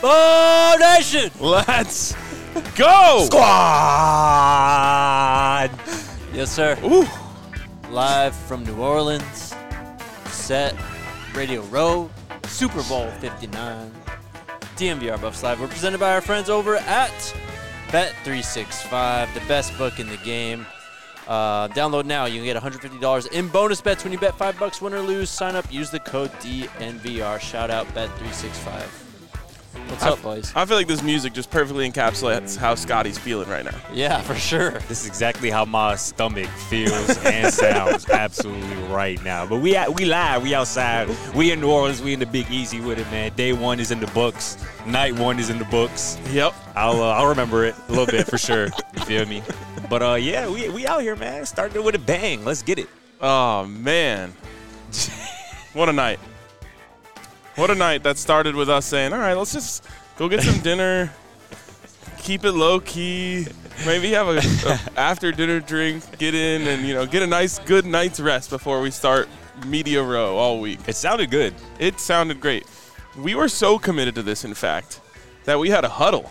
Oh, Nation! Let's go! Squad! Yes, sir. Ooh. Live from New Orleans. Set Radio Row. Super Bowl 59. DMVR Buffs Live. We're presented by our friends over at Bet365, the best book in the game. Download now. You can get $150 in bonus bets when you bet $5, win or lose. Sign up. Use the code DNVR. Shout out Bet365. What's up, boys? I feel like this music just perfectly encapsulates how Scotty's feeling right now. Yeah, for sure. This is exactly how my stomach feels and sounds absolutely right now. But we live, we outside, we in New Orleans, we in the Big Easy with it, man. Day one is in the books, night one is in the books. Yep. I'll remember it a little bit for sure. You feel me? But yeah, we out here, man. Starting with a bang. Let's get it. Oh man, what a night! What a night that started with us saying, all right, let's just go get some dinner, keep it low-key, maybe have a after-dinner drink, get in and, get a nice, good night's rest before we start Media Row all week. It sounded good. It sounded great. We were so committed to this, in fact, that we had a huddle.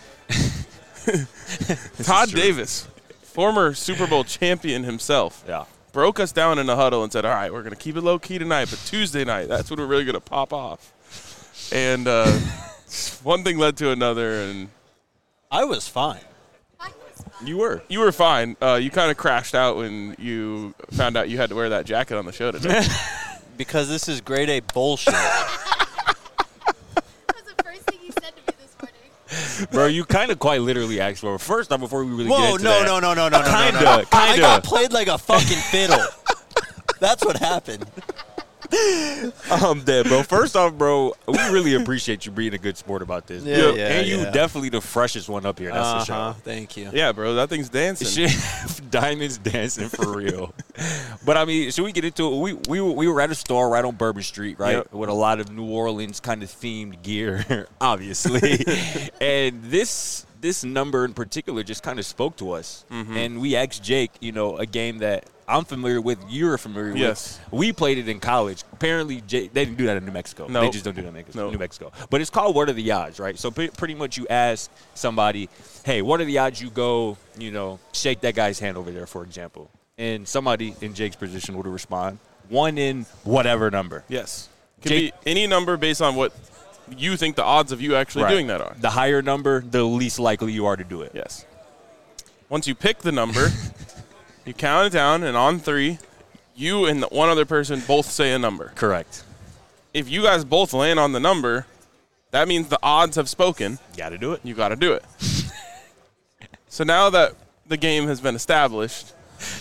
Todd Davis, former Super Bowl champion himself. Yeah. Broke us down in a huddle and said, all right, we're going to keep it low-key tonight, but Tuesday night, that's when we're really going to pop off. And one thing led to another, and I was fine. you were fine. You kind of crashed out when you found out you had to wear that jacket on the show today. Because this is grade A bullshit. That was the first thing he said to me this morning. Bro, you kind of quite literally asked for it. First time before we really Whoa, get into no. Kinda. I got played like a fucking fiddle. That's what happened. I'm dead, bro. First off, bro, we really appreciate you being a good sport about this. Yeah, bro. yeah, and you yeah. definitely the freshest one up here. That's for sure. Thank you. Yeah, bro, that thing's dancing. Shit, Diamonds dancing for real. But I mean, should we get into it? We were at a store right on Bourbon Street, right, Yep. with a lot of New Orleans kind of themed gear, obviously. And this number in particular just kind of spoke to us. Mm-hmm. And we asked Jake, a game that I'm familiar with, you're familiar Yes. with. We played it in college. Apparently, they didn't do that in New Mexico. No. They just don't do that in No. New Mexico. But it's called What Are the Odds, right? So pretty much you ask somebody, hey, what are the odds you go, shake that guy's hand over there, for example. And somebody in Jake's position would respond, 1 in whatever number. Yes. Could Jake- be any number based on what you think the odds of you actually Right. doing that are. The higher number, the least likely you are to do it. Yes. Once you pick the number, you count it down, and on 3, you and the one other person both say a number. Correct. If you guys both land on the number, that means the odds have spoken. Got to do it. You got to do it. So now that the game has been established,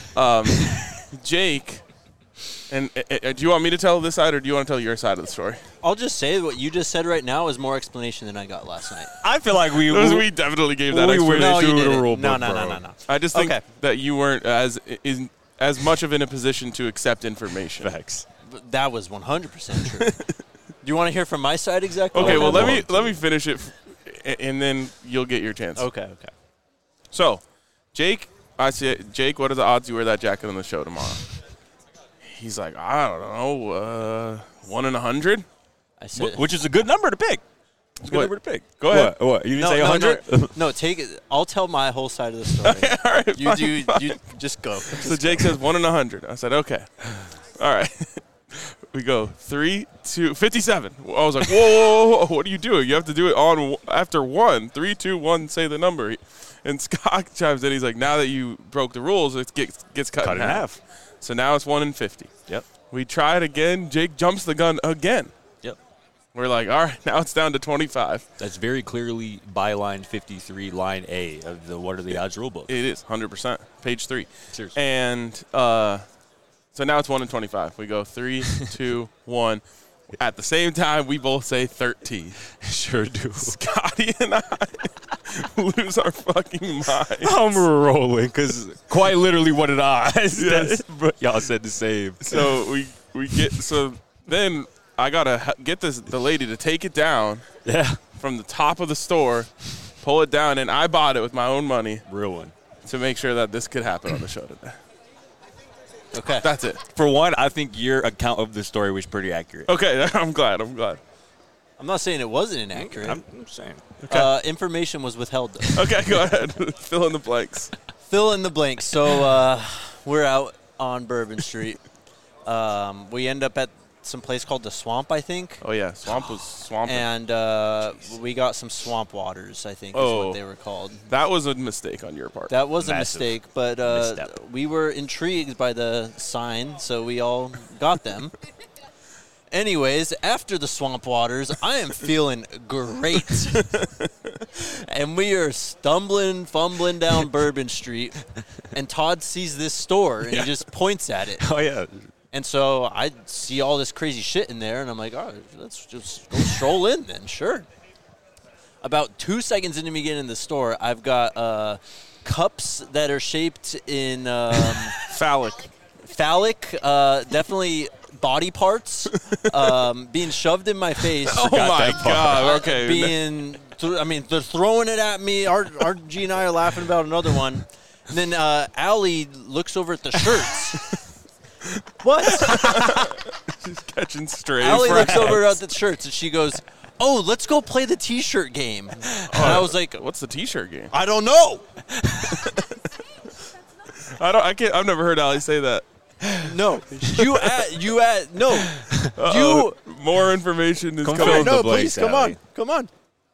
Jake, and do you want me to tell this side or do you want to tell your side of the story? I'll just say what you just said right now is more explanation than I got last night. I feel like we definitely gave that we explanation. went No, you through the didn't. rule No, book, no, bro. no. I just think Okay. that you weren't as much of in a position to accept information. Facts. But that was 100% true. Do you want to hear from my side exactly? Okay, well what let happened? me finish it, and then you'll get your chance. Okay. So, Jake, I said, Jake, what are the odds you wear that jacket on the show tomorrow? He's like, I don't know, 1 in 100. I said, Which is a good number to pick. It's a good What? number to pick. Go ahead. What? You didn't say no, 100? no, take it. I'll tell my whole side of the story. All right, You fine, do. fine. You just go. So Jake says 1 in 100. I said, okay. All right. We go 3, 2, 57. I was like, whoa, what are you doing? You have to do it on after 1. 3, 2, 1, say the number. And Scott chimes in. He's like, now that you broke the rules, it gets cut in half. So now it's 1 in 50. Yep. We try it again. Jake jumps the gun again. Yep. We're like, all right, now it's down to 25. That's very clearly byline 53, line A of the What Are the Odds rule book. It is 100%. Page 3. Seriously. And so now it's 1 in 25. We go 3, 2, 1. At the same time, we both say 13. Sure do. Scotty and I lose our fucking minds. I'm rolling because quite literally what did I? Yes. Y'all said the same. So then I gotta get the lady to take it down Yeah. from the top of the store, pull it down, and I bought it with my own money Real one. to make sure that this could happen on the show today. Okay. That's it. For one, I think your account of the story was pretty accurate. Okay, I'm glad. I'm not saying it wasn't inaccurate. I'm saying. Information was withheld, though. Okay, go ahead. Fill in the blanks. Fill in the blanks. So we're out on Bourbon Street. We end up at some place called the Swamp, I think. Oh, yeah. Swamp was swamping. And we got some swamp waters, I think is what they were called. That was a mistake on your part. That was a Massive mistake, but misstep. we were intrigued by the sign, so we all got them. Anyways, after the swamp waters, I am feeling great. And we are fumbling down Bourbon Street, and Todd sees this store, and he just points at it. Oh, yeah. And so I see all this crazy shit in there, and I'm like, oh, let's just go stroll in then, sure. About 2 seconds into me getting in the store, I've got cups that are shaped in Phallic. definitely body parts being shoved in my face. Oh, my God. Okay. They're throwing it at me. RG and I are laughing about another one. And then Allie looks over at the shirts. What? She's catching stray Allie looks frags. over at the shirts and she goes, oh, let's go play the T-shirt game. And I was like, What's the T-shirt game? I don't know. I've never heard Ali say that. No. More information is Come coming. fill in the No, blanks, please, come Allie. on. Come on.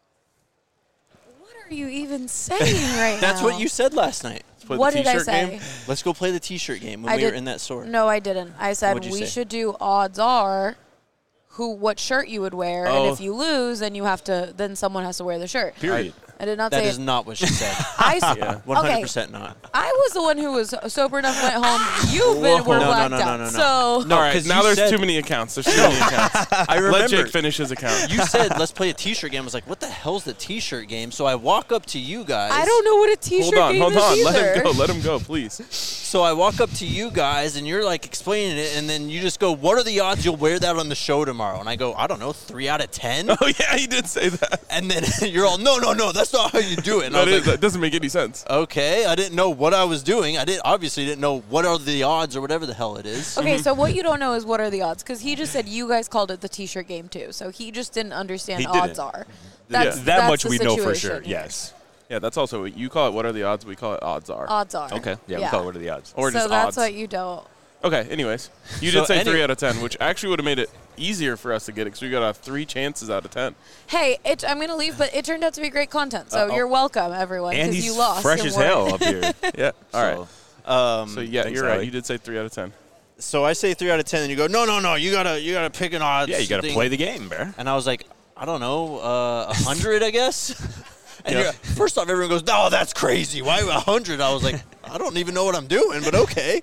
What are you even saying right That's now? what you said last night. Play What the did I T-shirt say? game? Let's go play the T-shirt game when I we were did- in that store. No, I didn't. I said What'd you we say? should do odds are what shirt you would wear, Oh. and if you lose, then someone has to wear the shirt. Period. I did not That say is not what she said. I s- Yeah. 100% not. I was the one who was sober enough and went home. You've been Whoa. were No, blacked no, no, out. no, no. So No, All right, 'cause now you there's said- too many accounts. There's too many accounts. I remember. Let Jake finish his account. You said, let's play a T-shirt game. I was like, what the hell's the T-shirt game? So I walk up to you guys. I don't know what a T-shirt game Hold is on. either. Let him go, please. So I walk up to you guys, and you're like explaining it, and then you just go, what are the odds you'll wear that on the show tomorrow? And I go, I don't know, 3 out of 10? Oh, yeah, he did say that. And then you're all, no, that's not how you do it. And I was like, That doesn't make any sense. okay, I didn't know what I was doing. I obviously didn't know what are the odds or whatever the hell it is. Okay, so what you don't know is what are the odds? Because he just said you guys called it the T-shirt game too. So he just didn't understand He odds didn't. are. Yeah. That much the we know for sure. situation. Yes. Yeah, that's also what you call it. What are the odds? We call it odds are. Odds are. Okay. Yeah, we call it what are the odds. Or so just that's odds. what you don't. Okay, anyways. You So did say any- 3 out of 10, which actually would have made it easier for us to get it because we got 3 chances out of 10. Hey, I'm going to leave, but it turned out to be great content. So you're welcome, everyone, And because he's you lost. fresh and as we're- hell up here. Yeah, all right. So, So, yeah, Thanks, you're right. Allie. You did say 3 out of 10. So I say 3 out of 10, and you go, no, you gotta pick an odds. yeah, you got to thing. play the game, bro. And I was like, I don't know, 100, I guess. And Yeah. you're- first off, everyone goes, no, that's crazy. Why 100? I was like, I don't even know what I'm doing, but okay.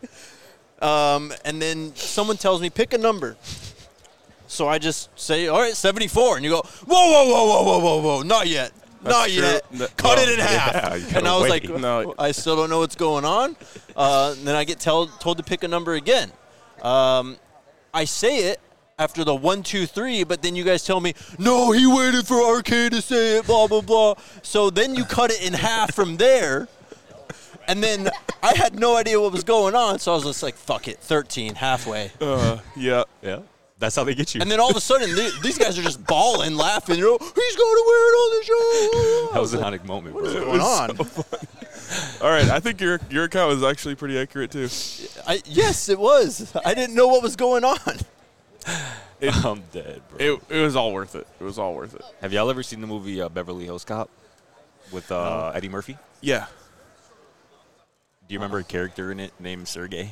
And then someone tells me, pick a number. So I just say, all right, 74. And you go, whoa, not yet. Not true. yet. Cut it in half. yeah, you gotta and I was wait. like, No. I still don't know what's going on. And then I get told to pick a number again. I say it after the 1, 2, 3, but then you guys tell me, no, he waited for Arcade to say it, blah, blah, blah. So then you cut it in half from there. And then I had no idea what was going on, so I was just like, fuck it, 13, halfway. Yeah. Yeah. That's how they get you. And then all of a sudden, these guys are just bawling, laughing. You know, he's going to wear it on the show. that was a iconic moment, bro. What's going on? All right, I think your account was actually pretty accurate, too. Yes, it was. I didn't know what was going on. I'm dead, bro. It was all worth it. It was all worth it. Have y'all ever seen the movie Beverly Hills Cop with Eddie Murphy? Yeah. Do you remember a character in it named Sergey?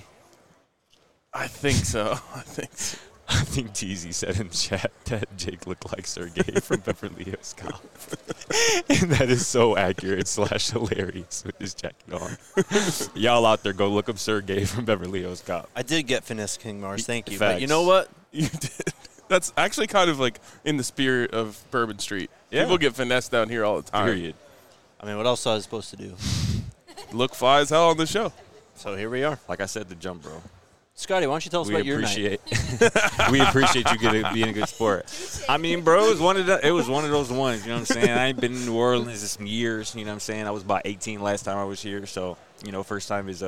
I think so. I think Teasy said in chat that Jake looked like Sergey from Beverly Hills Cop. And that is so accurate / hilarious with his jacket on. Y'all out there, go look up Sergey from Beverly Hills Cop. I did get finesse King Mars, thank you. Facts. But you know what? You did. That's actually kind of like in the spirit of Bourbon Street. Yeah. People get finessed down here all the time. Period. I mean, what else was I supposed to do? Look fly as hell on the show. So here we are. Like I said, the jump, bro. Scotty, why don't you tell us We about your night? appreciate we appreciate you being a good sport. I mean, bro, it was one of those ones, you know what I'm saying? I ain't been in New Orleans in some years, you know what I'm saying? I was about 18 last time I was here, so, first time is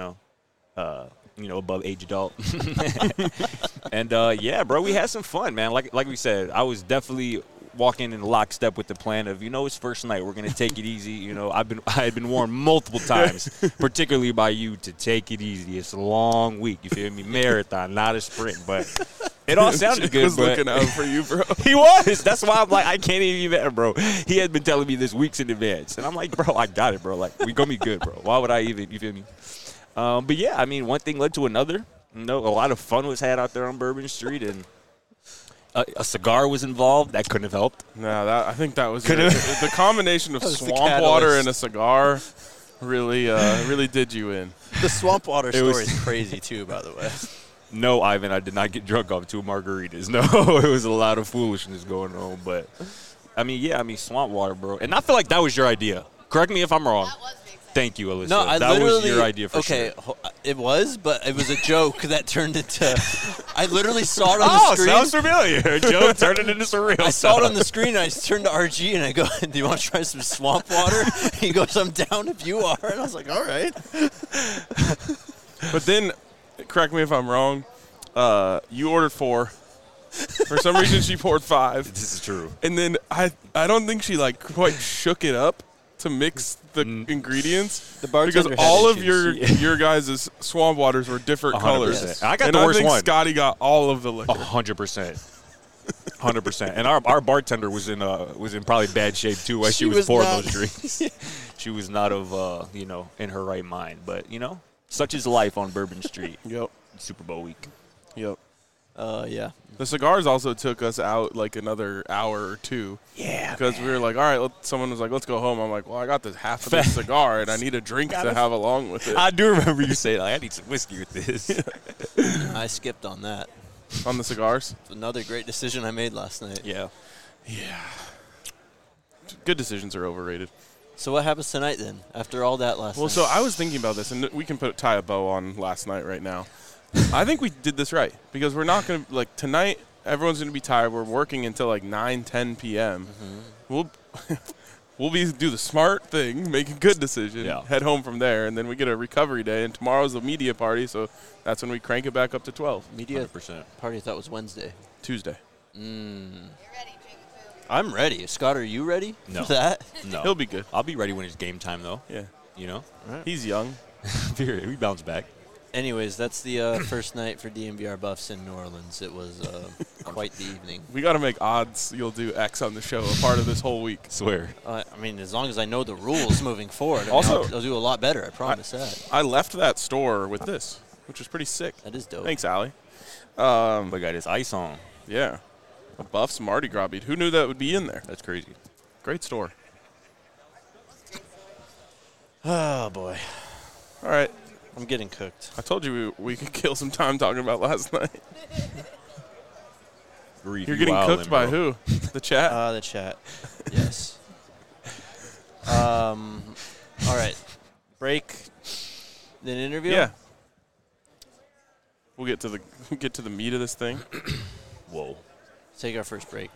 above age adult. And yeah, bro, we had some fun, man. Like we said, I was definitely walking in lockstep with the plan of, it's first night. We're going to take it easy. I had been warned multiple times, particularly by you, to take it easy. It's a long week. You feel me? Marathon, not a sprint. But it all sounded Jake good. was looking out for you, bro. He was. That's why I'm like, I can't even be mad, bro. He had been telling me this weeks in advance. And I'm like, bro, I got it, bro. Like, we going to be good, bro. Why would I even, you feel me? But, yeah, I mean, one thing led to another. A lot of fun was had out there on Bourbon Street, and a cigar was involved. That couldn't have helped. No, I think that was the combination of was the swamp water catalyst. and a cigar really did you in. The swamp water story was- is crazy, too, by the way. No, Ivan, I did not get drunk off 2 margaritas. No, it was a lot of foolishness going on. But, swamp water, bro. And I feel like that was your idea. Correct me if I'm wrong. Thank you, Alyssa. No, I that literally. was your idea for sure. It was, but it was a joke that turned into. I literally saw it on the screen. Sounds familiar. Joe turned it into surreal. I saw it on the screen, and I turned to RG, and I go, "Do you want to try some swamp water?" He goes, "I'm down if you are." And I was like, "All right." But then, correct me if I'm wrong, you ordered 4. For some reason, she poured 5. This is true. And then I don't think she quite shook it up to mix the ingredients. The bartender because had all of issues. your guys' swamp waters were different 100%. colors. I got and the worst I think one. Scotty got all of the liquor. 100%. 100%. And our bartender was in probably bad shape too while she was was pouring not. those drinks. She was not in her right mind. But such is life on Bourbon Street. Yep. Super Bowl week. Yep. Yeah. The cigars also took us out another hour or 2. Yeah. Because we were like, all right, someone was like, let's go home. I'm like, well, I got this half of this cigar, and I need a drink to have along with it. I do remember you saying, I need some whiskey with this. I skipped on that. On the cigars? It's another great decision I made last night. Yeah. Yeah. Good decisions are overrated. So what happens tonight then? After all that last night? Well, so I was thinking about this, and we can tie a bow on last night right now. I think we did this right because we're not going to, tonight, everyone's going to be tired. We're working until 9, 10 p.m. Mm-hmm. We'll do the smart thing, make a good decision, Yeah. head home from there, and then we get a recovery day. And tomorrow's the media party, so that's when we crank it back up to 12. media 100%. party I thought was Wednesday. Tuesday. I'm ready. Scott, are you ready No. for that? No. He'll be good. I'll be ready when it's game time, though. Yeah. He's young. We bounce back. Anyways, that's the first night for DMVR Buffs in New Orleans. It was quite the evening. We got to make odds you'll do X on the show a part of this whole week. Swear. I mean, as long as I know the rules moving forward, Also- I'll do a lot better. I promise that. I left that store with this, which was pretty sick. That is dope. Thanks, Allie. We got his ice on. Yeah. A Buffs Mardi Gras bead. Who knew that would be in there? That's crazy. Great store. Oh, boy. All right. I'm getting cooked. I told you we could kill some time talking about last night. Grief, You're you getting wildin', cooked by bro. who? The chat? The chat. Yes. All right. Break. Then interview? Yeah. We'll get to the meat of this thing. Whoa. Take our first break.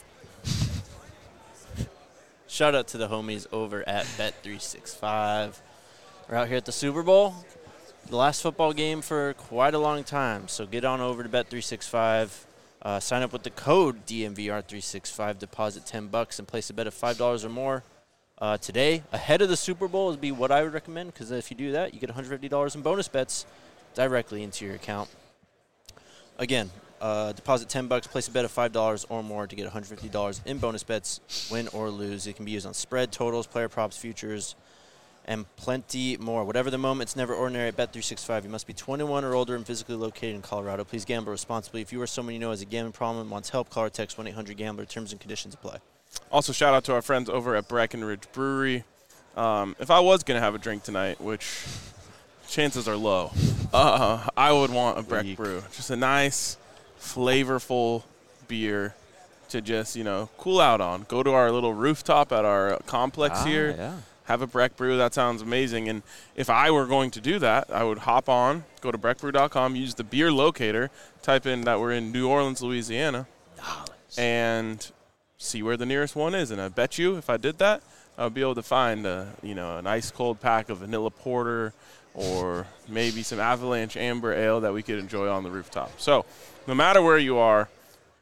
Shout out to the homies over at Bet365. We're out here at the Super Bowl. The last football game for quite a long time. So get on over to Bet365. Sign up with the code DMVR365. Deposit $10 and place a bet of $5 or more. Today, ahead of the Super Bowl, would be what I would recommend, because if you do that, you get $150 in bonus bets directly into your account. Again, deposit $10, place a bet of $5 or more to get $150 in bonus bets, win or lose. It can be used on spread, totals, player props, futures, and plenty more. Whatever the moment, it's never ordinary at Bet365. You must be 21 or older and physically located in Colorado. Please gamble responsibly. If you or someone you know has a gambling problem and wants help, call or text 1-800-GAMBLER. Terms and conditions apply. Also, shout out to our friends over at Breckenridge Brewery. If I was going to have a drink tonight, which chances are low, I would want a Breck Brew. Just a nice, flavorful beer to just, cool out on. Go to our little rooftop at our complex here. Yeah. Have a Breck Brew. That sounds amazing. And if I were going to do that, I would hop on, go to breckbrew.com, use the beer locator, type in that we're in New Orleans, Louisiana, and see where the nearest one is. And I bet you if I did that, I would be able to find an ice cold pack of vanilla porter or maybe some Avalanche Amber Ale that we could enjoy on the rooftop. So no matter where you are,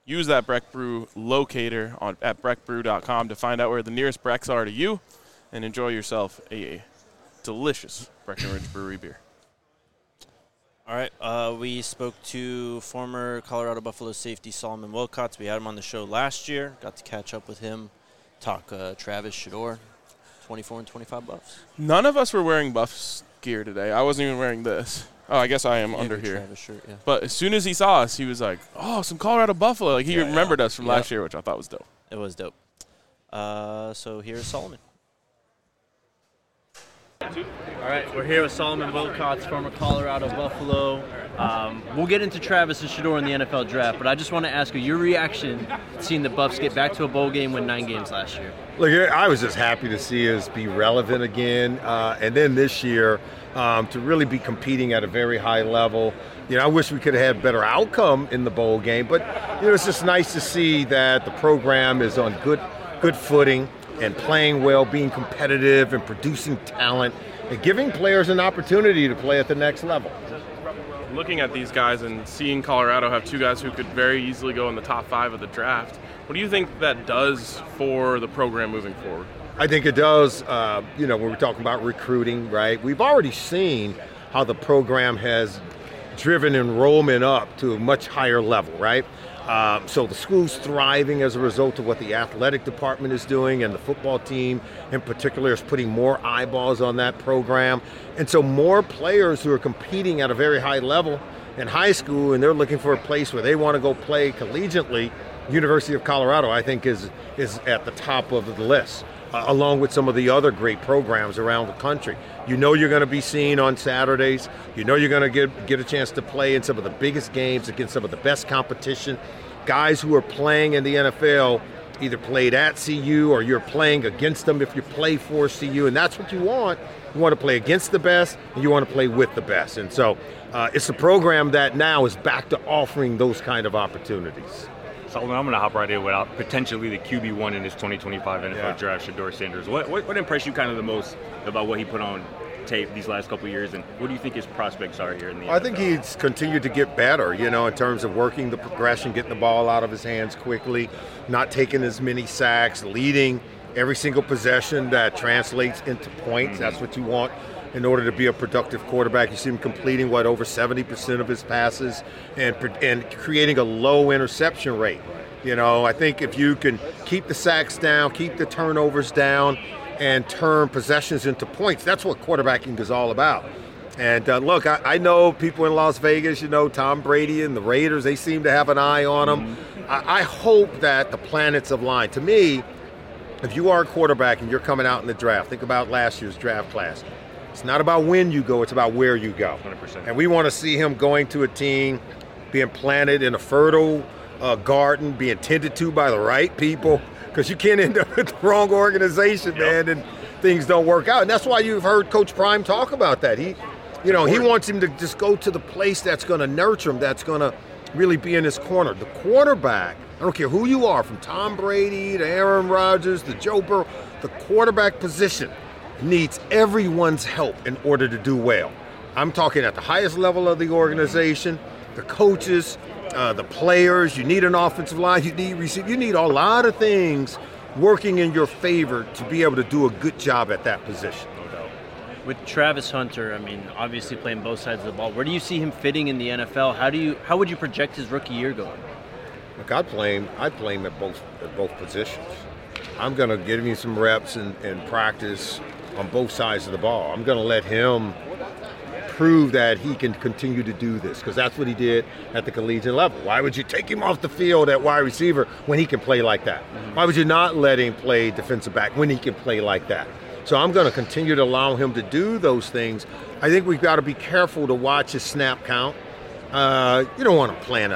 Use that Breck Brew locator at breckbrew.com to find out where the nearest Brecks are to you and enjoy yourself a delicious Breckenridge Brewery beer. All right, we spoke to former Colorado Buffalo safety Solomon Wilcots. We had him on the show last year. Got to catch up with him, talk Travis Shador, 24 and 25 Buffs. None of us were wearing Buffs gear today. I wasn't even wearing this. Oh, I guess I am under here. Travis shirt, yeah. But as soon as he saw us, he was like, "Oh, some Colorado Buffalo!" Like he remembered us from last year, which I thought was dope. It was dope. So here's Solomon. All right, we're here with Solomon Wilcots, former Colorado Buffalo. We'll get into Travis and Shador in the NFL draft, but I just want to ask you your reaction to seeing the Buffs get back to a bowl game, win 9 games last year. Look, I was just happy to see us be relevant again, and then this year to really be competing at a very high level. You know, I wish we could have had better outcome in the bowl game, but you know, it's just nice to see that the program is on good footing and playing well, being competitive and producing talent and giving players an opportunity to play at the next level. Looking at these guys and seeing Colorado have 2 guys who could very easily go in the top 5 of the draft, what do you think that does for the program moving forward? I think it does, when we're talking about recruiting, right? We've already seen how the program has driven enrollment up to a much higher level, right? So the school's thriving as a result of what the athletic department is doing, and the football team in particular is putting more eyeballs on that program. And so more players who are competing at a very high level in high school, and they're looking for a place where they want to go play collegiately, University of Colorado, I think, is at the top of the list, along with some of the other great programs around the country. You know you're going to be seen on Saturdays. You know you're going to get a chance to play in some of the biggest games against some of the best competition. Guys who are playing in the NFL either played at CU or you're playing against them if you play for CU, and that's what you want. You want to play against the best, and you want to play with the best. And so it's a program that now is back to offering those kind of opportunities. Solomon, I'm going to hop right in without potentially the QB1 in this 2025 NFL draft, Shador Sanders. What impressed you kind of the most about what he put on tape these last couple of years, and what do you think his prospects are here in the NFL? I think he's continued to get better, in terms of working the progression, getting the ball out of his hands quickly, not taking as many sacks, leading every single possession that translates into points. That's what you want in order to be a productive quarterback. You see him completing, over 70% of his passes and creating a low interception rate. I think if you can keep the sacks down, keep the turnovers down, and turn possessions into points, that's what quarterbacking is all about. And look, I know people in Las Vegas, Tom Brady and the Raiders, they seem to have an eye on him. I hope that the planets align. To me, if you are a quarterback and you're coming out in the draft, think about last year's draft class. It's not about when you go, it's about where you go. 100%. And we want to see him going to a team, being planted in a fertile garden, being tended to by the right people, because you can't end up with the wrong organization, man, and things don't work out. And that's why you've heard Coach Prime talk about that. He wants him to just go to the place that's going to nurture him, that's going to really be in his corner. The quarterback, I don't care who you are, from Tom Brady to Aaron Rodgers to Joe Burrow, the quarterback position needs everyone's help in order to do well. I'm talking at the highest level of the organization, the coaches, the players. You need an offensive line, you need receive, you need a lot of things working in your favor to be able to do a good job at that position. With Travis Hunter, obviously playing both sides of the ball, where do you see him fitting in the NFL? How would you project his rookie year going? Look, I'd play him at both positions. I'm going to give him some reps and practice on both sides of the ball. I'm going to let him prove that he can continue to do this, because that's what he did at the collegiate level. Why would you take him off the field at wide receiver when he can play like that? Why would you not let him play defensive back when he can play like that? So I'm going to continue to allow him to do those things. I think we've got to be careful to watch his snap count. You don't want to plan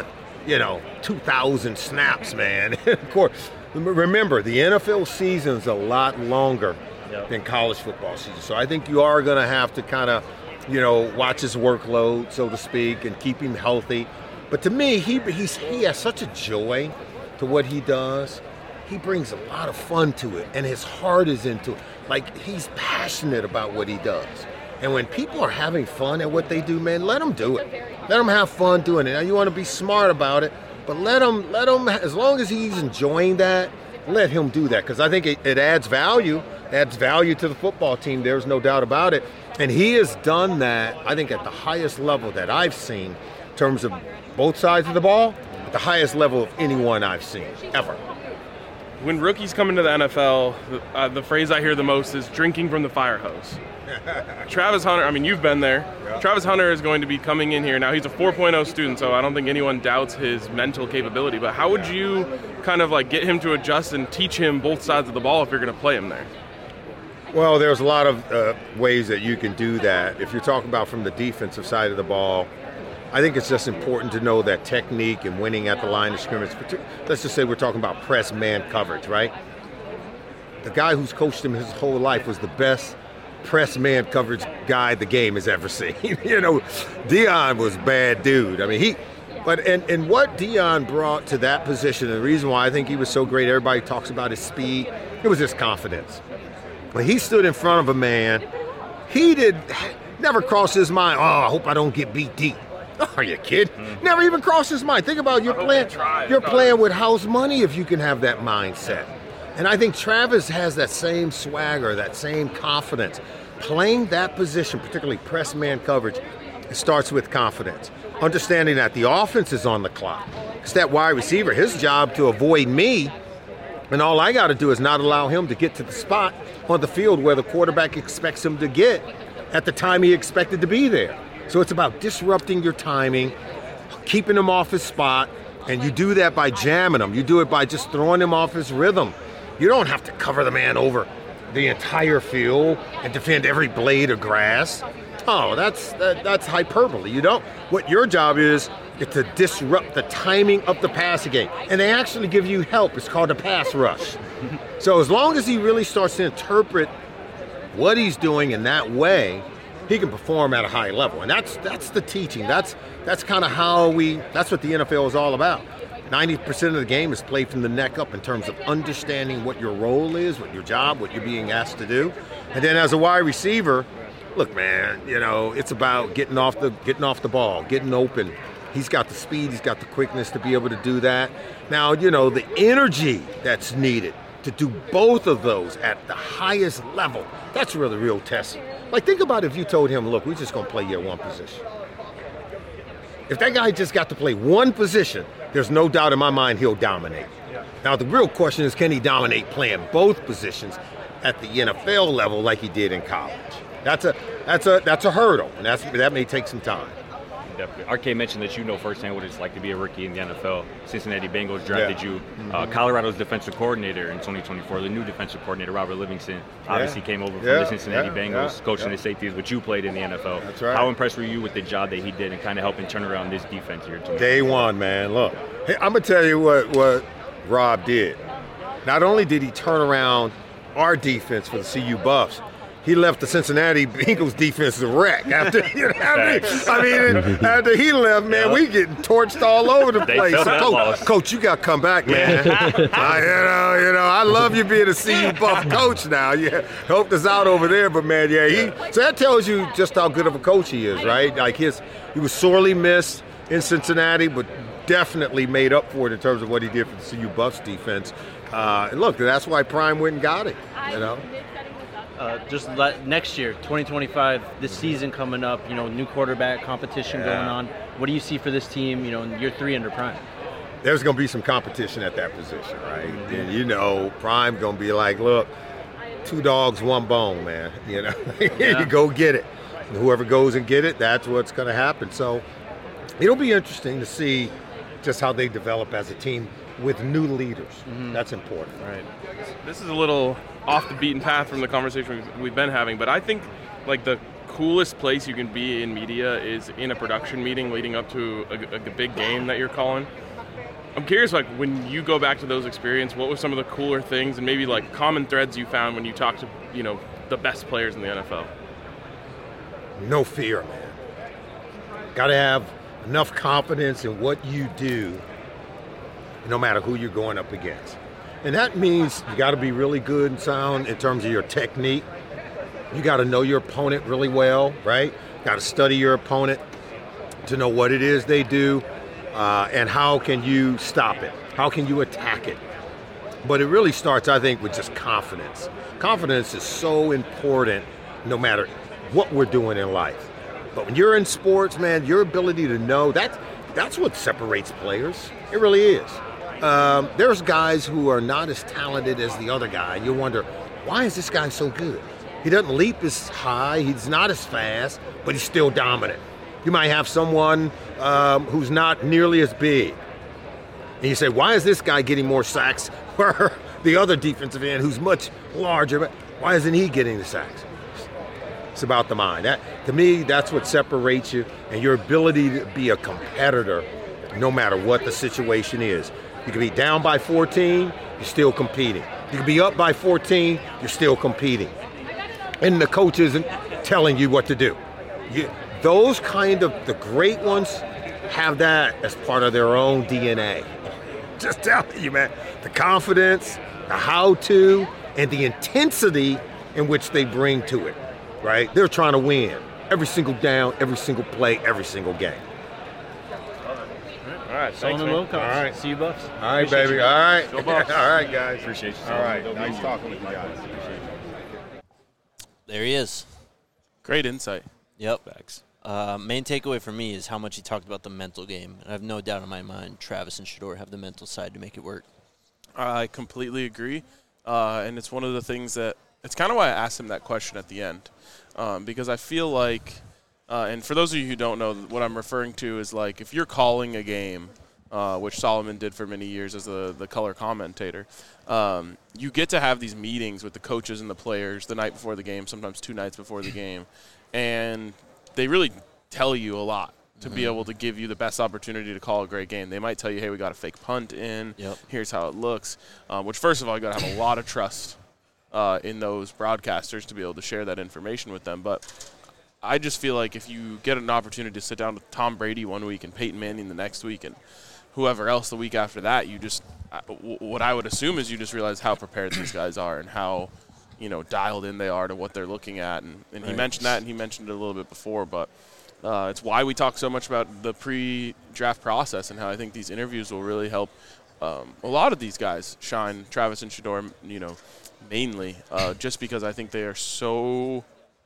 2,000 snaps, man. Of course, remember, the NFL season's a lot longer than college football season. So I think you are going to have to kind of, watch his workload, so to speak, and keep him healthy. But to me, he has such a joy to what he does. He brings a lot of fun to it, and his heart is into it. Like, he's passionate about what he does. And when people are having fun at what they do, man, let them do it. Let them have fun doing it. Now, you want to be smart about it. But let him, as long as he's enjoying that, let him do that, because I think it adds value to the football team. There's no doubt about it. And he has done that, I think, at the highest level that I've seen in terms of both sides of the ball, at the highest level of anyone I've seen, ever. When rookies come into the NFL, the phrase I hear the most is drinking from the fire hose. Travis Hunter, I mean, you've been there. Yeah. Travis Hunter is going to be coming in here. Now, he's a 4.0 student, so I don't think anyone doubts his mental capability. But how would you kind of like get him to adjust and teach him both sides of the ball if you're going to play him there? Well, there's a lot of ways that you can do that. If you're talking about from the defensive side of the ball, I think it's just important to know that technique and winning at the line of scrimmage. Let's just say we're talking about press man coverage, right? The guy who's coached him his whole life was the best press man coverage guy the game has ever seen. You know, Deion was a bad dude. I mean, and what Deion brought to that position, and the reason why I think he was so great, everybody talks about his speed, it was his confidence. When he stood in front of a man, never crossed his mind, I hope I don't get beat deep. Are you kidding? Never even crossed his mind. Think about you're playing with house money if you can have that mindset. And I think Travis has that same swagger, that same confidence. Playing that position, particularly press man coverage, it starts with confidence. Understanding that the offense is on the clock. It's that wide receiver, his job to avoid me, and all I got to do is not allow him to get to the spot on the field where the quarterback expects him to get at the time he expected to be there. So it's about disrupting your timing, keeping him off his spot, and you do that by jamming him. You do it by just throwing him off his rhythm. You don't have to cover the man over the entire field and defend every blade of grass. Oh, that's hyperbole. You don't. What your job is to disrupt the timing of the passing game. And they actually give you help. It's called a pass rush. So as long as he really starts to interpret what he's doing in that way, he can perform at a high level. And that's the teaching. That's kind of that's what the NFL is all about. 90% of the game is played from the neck up in terms of understanding what your role is, what your job, what you're being asked to do. And then as a wide receiver, look, man, you know, it's about getting off the ball, getting open. He's got the speed, he's got the quickness to be able to do that. Now, you know, the energy that's needed to do both of those at the highest level, that's really the real test. Like, think about if you told him, look, we're just going to play you at one position. If that guy just got to play one position, there's no doubt in my mind he'll dominate. Now, the real question is, can he dominate playing both positions at the NFL level like he did in college? That's a hurdle, and that may take some time. Definitely. RK mentioned that you know firsthand what it's like to be a rookie in the NFL. Cincinnati Bengals drafted you. Colorado's defensive coordinator in 2024, the new defensive coordinator, Robert Livingston, obviously came over from the Cincinnati Bengals, coaching the safeties, which you played in the NFL. That's right. How impressed were you with the job that he did and kind of helping turn around this defense here? Day one, man. Look, hey, I'm going to tell you what Rob did. Not only did he turn around our defense for the CU Buffs, he left the Cincinnati Bengals defense a wreck. After he left, man, we getting torched all over the place. So, coach, you got to come back, man. I love you being a CU Buff coach now. Yeah, helped us out over there, but man, so that tells you just how good of a coach he is, right? Like he was sorely missed in Cincinnati, but definitely made up for it in terms of what he did for the CU Buffs defense. And look, that's why Prime went and got it. You know. Next year, 2025, this season coming up, you know, new quarterback competition going on. What do you see for this team, you know, in year 3 under Prime? There's going to be some competition at that position, right? And, you know, Prime going to be like, look, 2 dogs, 1 bone, man. You know, you go get it. And whoever goes and get it, that's what's going to happen. So it'll be interesting to see just how they develop as a team with new leaders. That's important. Right. This is a little off the beaten path from the conversation we've been having, but I think like the coolest place you can be in media is in a production meeting leading up to a big game that you're calling. I'm curious, like when you go back to those experiences, what were some of the cooler things and maybe like common threads you found when you talked to, you know, the best players in the NFL? No fear, man. Got to have enough confidence in what you do, no matter who you're going up against. And that means you got to be really good and sound in terms of your technique. You got to know your opponent really well, right? Got to study your opponent to know what it is they do. and how can you stop it? How can you attack it? But it really starts, I think, with just confidence. Confidence is so important no matter what we're doing in life. But when you're in sports, man, your ability to know, that's what separates players. It really is. There's guys who are not as talented as the other guy. You wonder, why is this guy so good? He doesn't leap as high, he's not as fast, but he's still dominant. You might have someone who's not nearly as big. And you say, why is this guy getting more sacks where the other defensive end who's much larger, why isn't he getting the sacks? It's about the mind. To me, that's what separates you and your ability to be a competitor no matter what the situation is. You can be down by 14, you're still competing. You can be up by 14, you're still competing. And the coach isn't telling you what to do. Those kind of, the great ones have that as part of their own DNA. Just telling you, man, the confidence, the how-to, and the intensity in which they bring to it, right? They're trying to win every single down, every single play, every single game. All right, Solomon Wilcox. All right. See you, Buffs. All right, Appreciate baby. you. All right. Go Buffs. All right, guys. Appreciate you. All right. Nice talking with you guys. There he is. Great insight. Yep. Facts. Main takeaway for me is how much he talked about the mental game. And I have no doubt in my mind Travis and Shedeur have the mental side to make it work. I completely agree. And it's one of the things that – it's kind of why I asked him that question at the end. Because I feel like and for those of you who don't know, what I'm referring to is like if you're calling a game, which Solomon did for many years as the color commentator, you get to have these meetings with the coaches and the players the night before the game, sometimes 2 nights before the game. And they really tell you a lot to be able to give you the best opportunity to call a great game. They might tell you, hey, we got a fake punt in. Yep. Here's how it looks. Which, first of all, you got to have a lot of trust in those broadcasters to be able to share that information with them. But I just feel like if you get an opportunity to sit down with Tom Brady one week and Peyton Manning the next week and whoever else the week after that, you just what I would assume is you just realize how prepared these guys are and how dialed in they are to what they're looking at. And right. He mentioned that, and he mentioned it a little bit before, but it's why we talk so much about the pre-draft process and how I think these interviews will really help a lot of these guys shine, Travis and Shedeur, mainly, just because I think they are so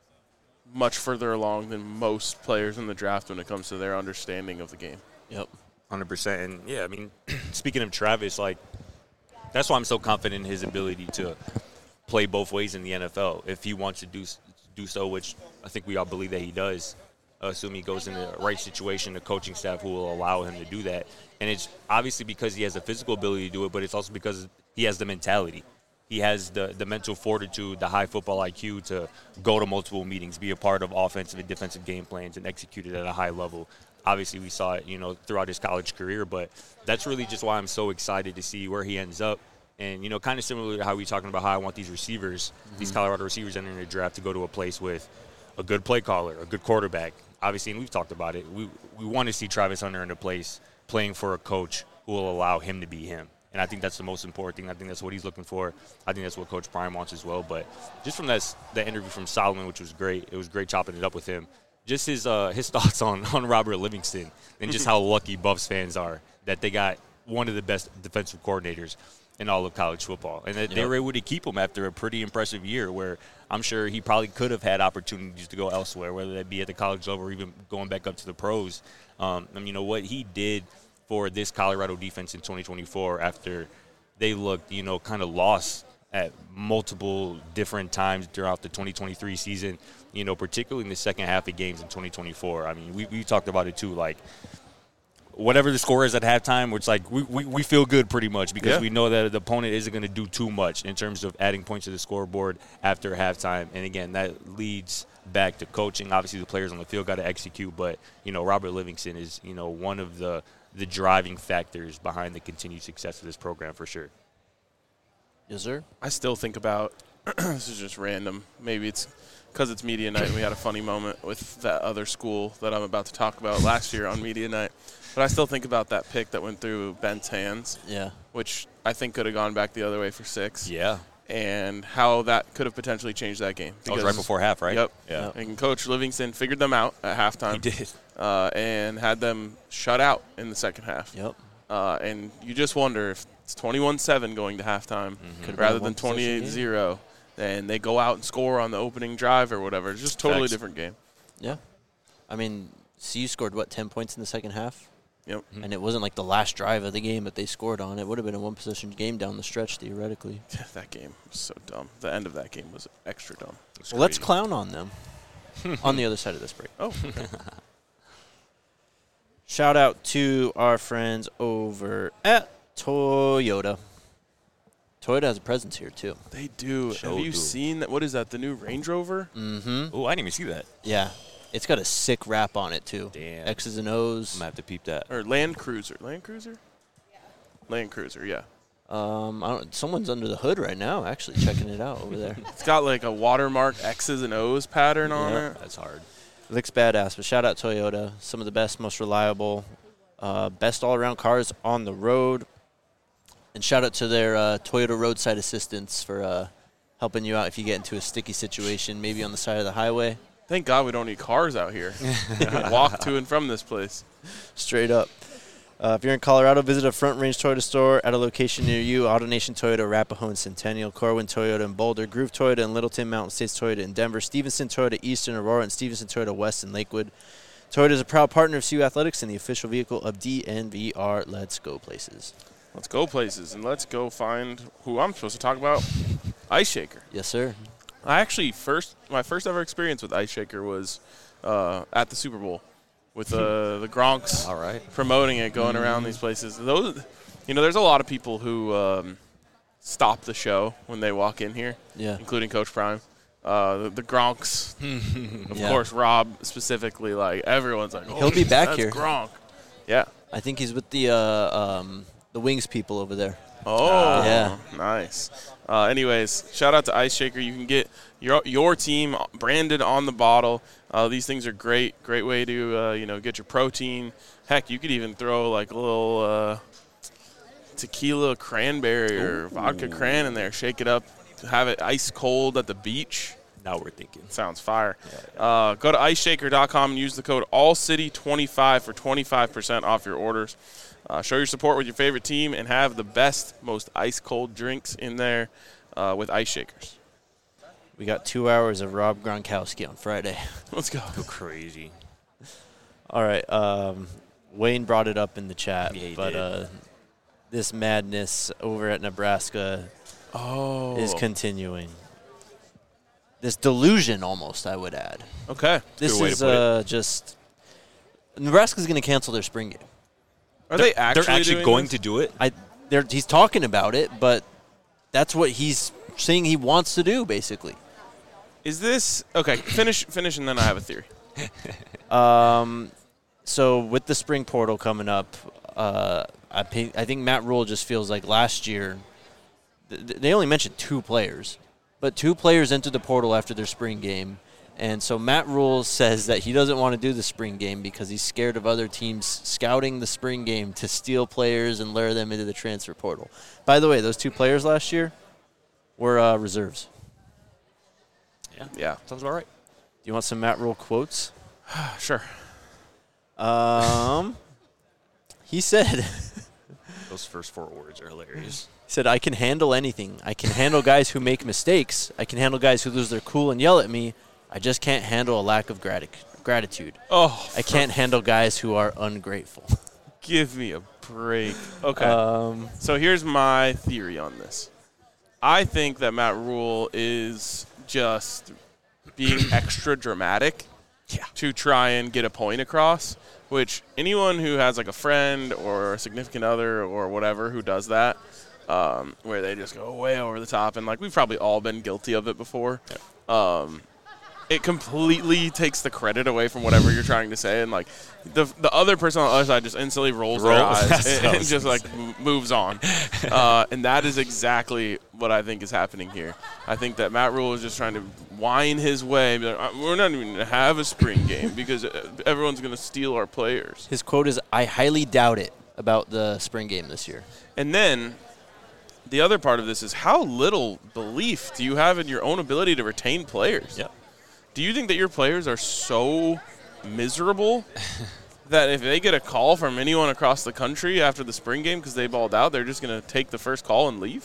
much further along than most players in the draft when it comes to their understanding of the game. Yep, 100%. And, yeah, I mean, speaking of Travis, that's why I'm so confident in his ability to play both ways in the NFL. If he wants to do so, which I think we all believe that he does, assume he goes in the right situation, the coaching staff who will allow him to do that. And it's obviously because he has the physical ability to do it, but it's also because he has the mentality. He has the mental fortitude, the high football IQ to go to multiple meetings, be a part of offensive and defensive game plans, and execute it at a high level. Obviously, we saw it, throughout his college career, but that's really just why I'm so excited to see where he ends up. And, kind of similar to how we're talking about how I want these receivers, these Colorado receivers entering the draft to go to a place with a good play caller, a good quarterback. Obviously, and we've talked about it, we want to see Travis Hunter in a place playing for a coach who will allow him to be him. And I think that's the most important thing. I think that's what he's looking for. I think that's what Coach Prime wants as well. But just from that interview from Solomon, which was great, it was great chopping it up with him. Just his thoughts on Robert Livingston and just how lucky Buffs fans are that they got one of the best defensive coordinators in all of college football. And that they were able to keep him after a pretty impressive year where I'm sure he probably could have had opportunities to go elsewhere, whether that be at the college level or even going back up to the pros. And what he did for this Colorado defense in 2024 after they looked, kind of lost at multiple different times throughout the 2023 season, particularly in the second half of games in 2024. I mean, we talked about it too, whatever the score is at halftime, it's like we feel good pretty much because we know that the opponent isn't going to do too much in terms of adding points to the scoreboard after halftime. And, again, that leads back to coaching. Obviously, the players on the field got to execute, but, Robert Livingston is, one of the driving factors behind the continued success of this program for sure. Yes, sir. I still think about this is just random. Maybe it's because it's media night and we had a funny moment with that other school that I'm about to talk about last year on media night. But I still think about that pick that went through Ben's hands. Yeah. Which I think could have gone back the other way for 6. Yeah. and how that could have potentially changed that game. That was right before half, right? Yep. Yeah. And Coach Livingston figured them out at halftime. He did. And had them shut out in the second half. Yep. And you just wonder if it's 21-7 going to halftime rather than 28-0, and they go out and score on the opening drive or whatever. It's just a totally different game. Yeah. I mean, CU scored, 10 points in the second half? Yep. And it wasn't like the last drive of the game that they scored on. It would have been a one-possession game down the stretch, theoretically. That game was so dumb. The end of that game was extra dumb. Well, let's clown on them on the other side of this break. Oh, okay. Shout out to our friends over at Toyota. Toyota has a presence here, too. They do. Have you seen that? What is that, the new Range Rover? Mm-hmm. Oh, I didn't even see that. Yeah. It's got a sick wrap on it, too. Damn. X's and O's. I'm going to have to peep that. Or Land Cruiser. Land Cruiser? Yeah. Land Cruiser, yeah. Someone's under the hood right now, actually, checking it out over there. It's got like a watermark X's and O's pattern on it. That's hard. Looks badass, but shout out Toyota. Some of the best, most reliable, best all-around cars on the road. And shout out to their Toyota roadside assistance for helping you out if you get into a sticky situation, maybe on the side of the highway. Thank God we don't need cars out here. We can walk to and from this place. Straight up. If you're in Colorado, visit a Front Range Toyota store at a location near you. AutoNation Toyota, Arapahoe and Centennial, Corwin Toyota in Boulder, Groove Toyota in Littleton, Mountain States Toyota in Denver, Stevenson Toyota East in Aurora, and Stevenson Toyota West in Lakewood. Toyota is a proud partner of CU Athletics and the official vehicle of DNVR. Let's go places. Let's go places, and let's go find who I'm supposed to talk about, Ice Shaker. Yes, sir. I actually my first ever experience with Ice Shaker was at the Super Bowl with the Gronks. All right. Promoting it, going around these places. Those, there's a lot of people who stop the show when they walk in here, including Coach Prime. The Gronks, of course, Rob specifically. Like everyone's like, he'll be back that's here. Gronk. Yeah. I think he's with the Wings people over there. Oh, yeah. Nice. Anyways, shout out to Ice Shaker. You can get your team branded on the bottle. These things are great way to get your protein. Heck, you could even throw like a little tequila cranberry or vodka cran in there. Shake it up, have it ice cold at the beach. Now we're thinking. Sounds fire. Go to iceshaker.com and use the code ALLCITY25 for 25% off your orders. Show your support with your favorite team and have the best, most ice-cold drinks in there with Ice Shakers. We got 2 hours of Rob Gronkowski on Friday. Let's go. Go crazy. All right. Wayne brought it up in the chat, Yeah, he but did. this madness over at Nebraska is continuing. This delusion, almost, I would add. Okay. This way to is put just Nebraska's going to cancel their spring game. Are they actually They're actually doing going this? to do it? He's talking about it, but that's what he's saying he wants to do, basically. Is this – okay, finish, and then I have a theory. So with the spring portal coming up, I think Matt Rule just feels like last year they only mentioned 2 players, but 2 players entered the portal after their spring game. And so Matt Rule says that he doesn't want to do the spring game because he's scared of other teams scouting the spring game to steal players and lure them into the transfer portal. By the way, those 2 players last year were reserves. Yeah. Sounds about right. Do you want some Matt Rule quotes? Sure. He said, Those first 4 words are hilarious. he said, I can handle anything. I can handle guys who make mistakes. I can handle guys who lose their cool and yell at me. I just can't handle a lack of gratitude. Oh, I can't handle guys who are ungrateful. give me a break. Okay. So here's my theory on this. I think that Matt Rule is just being extra dramatic to try and get a point across, which anyone who has like a friend or a significant other or whatever who does that, where they just go way over the top, and like we've probably all been guilty of it before. It completely takes the credit away from whatever you're trying to say, and like the other person on the other side just instantly rolls their eyes and just like moves on. And that is exactly what I think is happening here. I think that Matt Rule is just trying to whine his way. Be like, we're not even going to have a spring game because everyone's going to steal our players. His quote is, I highly doubt it about the spring game this year. And then the other part of this is how little belief do you have in your own ability to retain players? Yep. Do you think that your players are so miserable that if they get a call from anyone across the country after the spring game because they balled out, they're just going to take the first call and leave?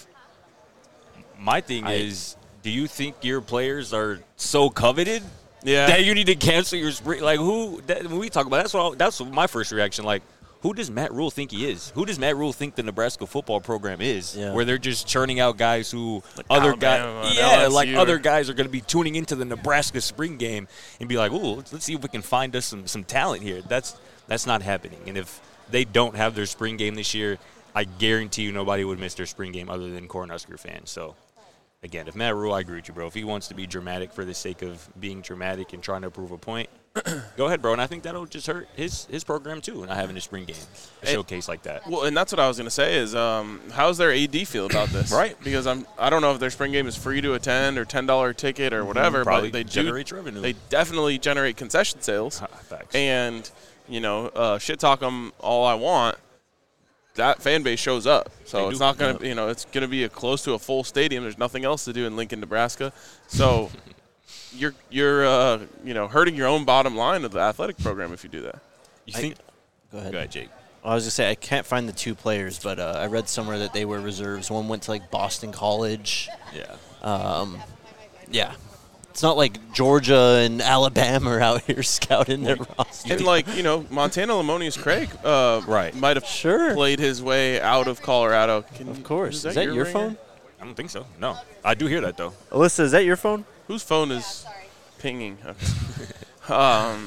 My thing is, do you think your players are so coveted Yeah. that you need to cancel your spring? Like, when we talk about that's my first reaction. Like, who does Matt Rule think he is? Who does Matt Rule think the Nebraska football program is? Yeah. Where they're just churning out guys who Alabama and LSU other guys are going to be tuning into the Nebraska spring game and be like, "Ooh, let's see if we can find us some talent here." That's not happening. And if they don't have their spring game this year, I guarantee you nobody would miss their spring game other than Cornhusker fans. So, again, if Matt Rule, I agree with you, bro. If he wants to be dramatic for the sake of being dramatic and trying to prove a point, go ahead, bro. And I think that'll just hurt his program, too, not having a spring game, a showcase like that. Well, and that's what I was going to say is how's their AD feel about this? Right. Because I don't know if their spring game is free to attend or $10 ticket or whatever, Probably but they generates revenue. They definitely generate concession sales. Facts. And, shit talk them all I want. That fan base shows up. So it's not going to, it's going to be close to a full stadium. There's nothing else to do in Lincoln, Nebraska. So you're hurting your own bottom line of the athletic program if you do that. You think? Go ahead. Go ahead, Jake. I was going to say, I can't find the two players, but I read somewhere that they were reserves. One went to, like, Boston College. Yeah. Yeah. It's not like Georgia and Alabama are out here scouting their roster. And, Montana Lamonius Craig Right. might have played his way out of Colorado. Of course. Is that your ringer? phone? I don't think so. No. I do hear that, though. Alyssa, is that your phone? Whose phone is pinging? Y'all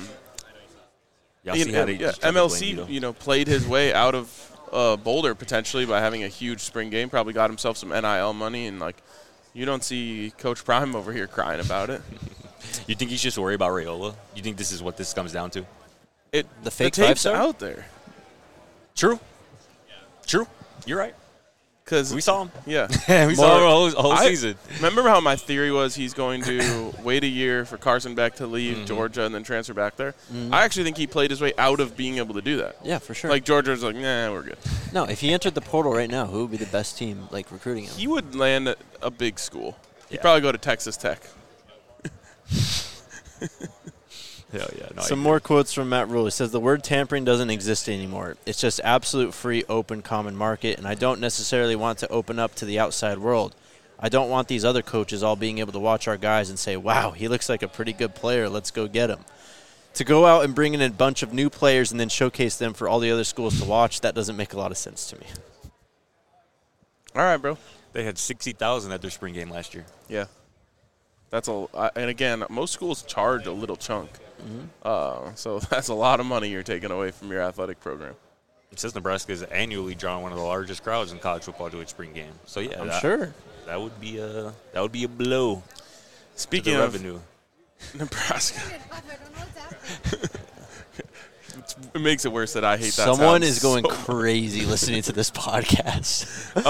see how they just blame MLC, Vito? played his way out of Boulder potentially by having a huge spring game. Probably got himself some NIL money, and you don't see Coach Prime over here crying about it. You think he's just worried about Raiola? You think this is what this comes down to? The fake tape's five-star? out there. True. You're right. Because We saw him. Yeah. We saw him a whole season. Remember how my theory was he's going to wait a year for Carson Beck to leave Georgia and then transfer back there? I actually think he played his way out of being able to do that. Yeah, for sure. Like Georgia's like, nah, we're good. No, if he entered the portal right now, who would be the best team, recruiting him? He would land at a big school. He'd Yeah. probably go to Texas Tech. Hell yeah. No, Some more quotes from Matt Rule. He says, the word tampering doesn't exist anymore. It's just absolute free, open, common market, and I don't necessarily want to open up to the outside world. I don't want these other coaches all being able to watch our guys and say, wow, he looks like a pretty good player. Let's go get him. To go out and bring in a bunch of new players and then showcase them for all the other schools to watch, that doesn't make a lot of sense to me. All right, bro. They had 60,000 at their spring game last year. Yeah. And again, most schools charge a little chunk. So that's a lot of money you're taking away from your athletic program. It says Nebraska is annually drawing one of the largest crowds in college football to its spring game. So yeah, I'm sure. that would be a blow Speaking to the of revenue. Nebraska, it makes it worse that I hate that. Someone sound is going so crazy listening to this podcast.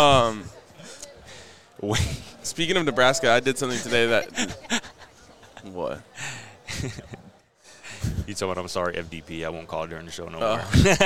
Speaking of Nebraska, I did something today that. What? You told me I'm sorry, FDP. I won't call during the show no more.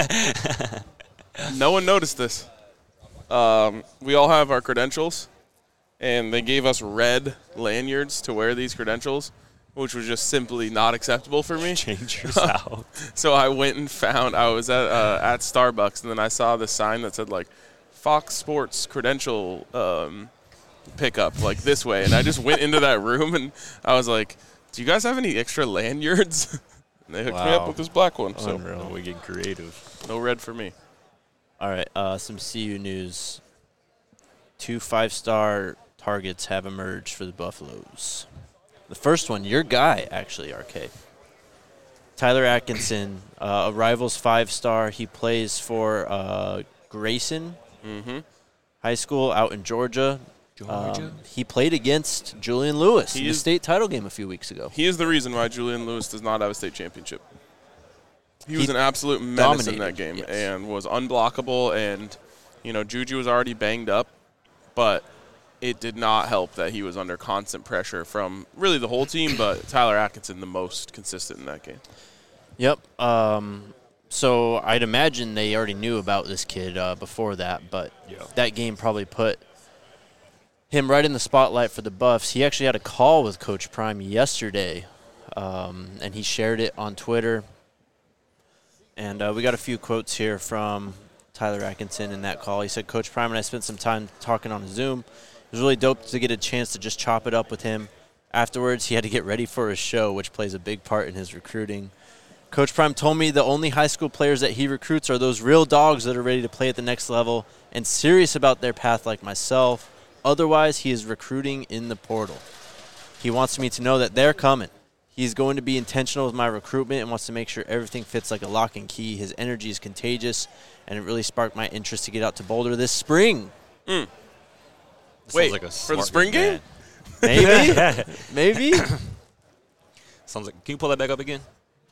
No one noticed this. We all have our credentials, and they gave us red lanyards to wear these credentials, which was just simply not acceptable for me. Change yours out. So I went and found. I was at Starbucks, and then I saw this sign that said Fox Sports credential pickup this way, and I just went into that room and I was like, "Do you guys have any extra lanyards?" And they hooked me up Wow. with this black one. So Unreal. We're getting creative. no red for me. All right, some CU news. 2 5-star targets have emerged for the Buffaloes. The first one, your guy, actually, RK. Tyler Atkinson, a Rivals 5-star. He plays for Grayson High School out in Georgia. He played against Julian Lewis in the state title game a few weeks ago. He is the reason why Julian Lewis does not have a state championship. He was an absolute menace in that game and was unblockable. And, Juju was already banged up, but it did not help that he was under constant pressure from really the whole team, but Tyler Atkinson the most consistent in that game. Yep. So I'd imagine they already knew about this kid before that, but that game probably put him right in the spotlight for the Buffs. He actually had a call with Coach Prime yesterday, and he shared it on Twitter. And we got a few quotes here from Tyler Atkinson in that call. He said, Coach Prime and I spent some time talking on Zoom. It was really dope to get a chance to just chop it up with him. Afterwards, he had to get ready for his show, which plays a big part in his recruiting. Coach Prime told me the only high school players that he recruits are those real dogs that are ready to play at the next level and serious about their path like myself. Otherwise, he is recruiting in the portal. He wants me to know that they're coming. He's going to be intentional with my recruitment and wants to make sure everything fits like a lock and key. His energy is contagious, and it really sparked my interest to get out to Boulder this spring. Wait, like a for the smart spring man. game? Maybe. Sounds like. Can you pull that back up again?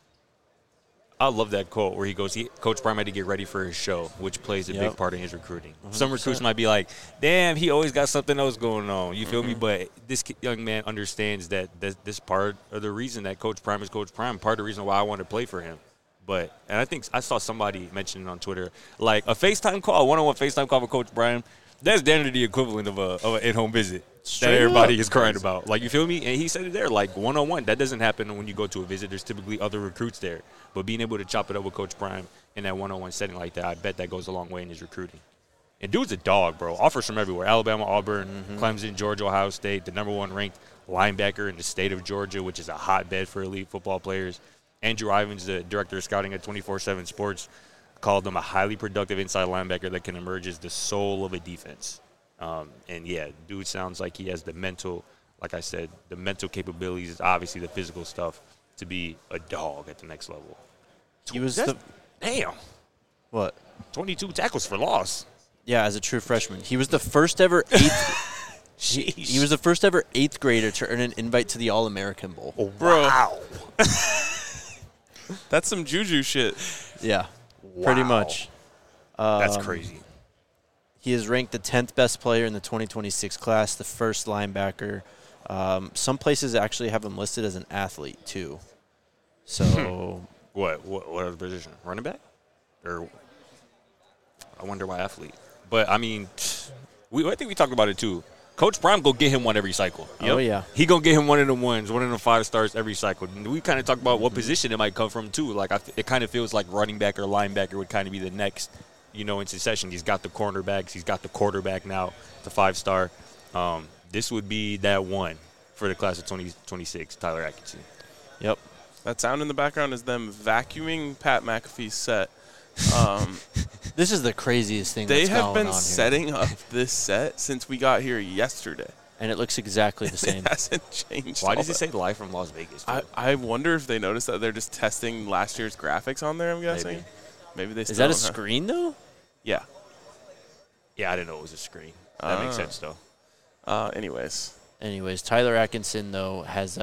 I love that quote where he goes, Coach Prime had to get ready for his show, which plays a big part in his recruiting. 100%. Some recruits might be like, damn, he always got something else going on. You feel me? But this young man understands that this part of the reason that Coach Prime is Coach Prime, part of the reason why I wanted to play for him. And I think I saw somebody mention it on Twitter, like a FaceTime call, a one-on-one FaceTime call with Coach Prime, that's down to the equivalent of an in-home visit. That everybody is crying about. Like, you feel me? And he said it there, like, one-on-one. That doesn't happen when you go to a visit. There's typically other recruits there. But being able to chop it up with Coach Prime in that one-on-one setting like that, I bet that goes a long way in his recruiting. And dude's a dog, bro. Offers from everywhere. Alabama, Auburn, Clemson, Georgia, Ohio State, the number one ranked linebacker in the state of Georgia, which is a hotbed for elite football players. Andrew Ivins, the director of scouting at 24/7 Sports, called him a highly productive inside linebacker that can emerge as the soul of a defense. And, yeah, dude sounds like he has the mental, like I said, the mental capabilities, obviously the physical stuff, to be a dog at the next level. He was Damn. What? 22 tackles for loss. Yeah, as a true freshman. He was the first ever he was the first ever 8th grader to earn an invite to the All-American Bowl. Oh, Bro. wow. That's some juju shit. Yeah, pretty much. That's crazy. He is ranked the 10th best player in the 2026 class, the first linebacker. Some places actually have him listed as an athlete, too. So What other position? Running back? Or I wonder why athlete. But, I mean, I think we talked about it, too. Coach Prime go get him one every cycle. Oh, yeah. He going to get him one of the ones, one of the 5 stars every cycle. And we kind of talked about what position it might come from, too. Like, it kind of feels like running back or linebacker would kind of be the next, in succession. He's got the cornerbacks. He's got the quarterback now, the 5-star. This would be that one for the class of 2026, Tyler Atkinson. Yep. That sound in the background is them vacuuming Pat McAfee's set. This is the craziest thing They that's have going been on here. setting up this set since we got here yesterday. And it looks exactly the same. It hasn't changed. Why all does it that. say live from Las Vegas? I wonder if they noticed that they're just testing last year's graphics on there, I'm guessing. Maybe they Is still that a don't have- screen, though? Yeah. Yeah, I didn't know it was a screen. That makes sense, though. Anyways, Tyler Atkinson, though, has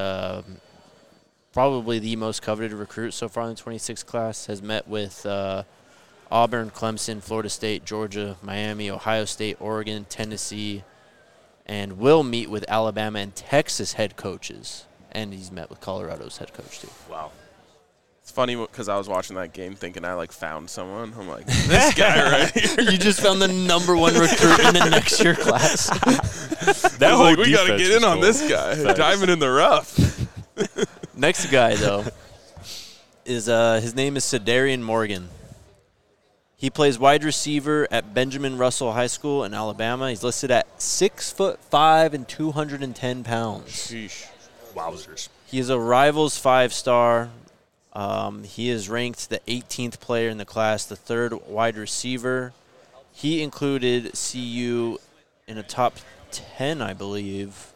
probably the most coveted recruit so far in the 26 class, has met with Auburn, Clemson, Florida State, Georgia, Miami, Ohio State, Oregon, Tennessee, and will meet with Alabama and Texas head coaches. And he's met with Colorado's head coach, too. Wow. it's funny because I was watching that game thinking I found someone. I'm like, this guy right here. You just found the number 1 recruit in the next year class. That I was whole like, we got to defense get in was on cool. this guy. Facts. Diving in the rough. Next guy, though, is his name is Sedarian Morgan. He plays wide receiver at Benjamin Russell High School in Alabama. He's listed at 6'5" and 210 pounds. Sheesh. Wowzers. He is a Rivals 5-star. He is ranked the 18th player in the class, the 3rd wide receiver. He included CU in a top 10, I believe,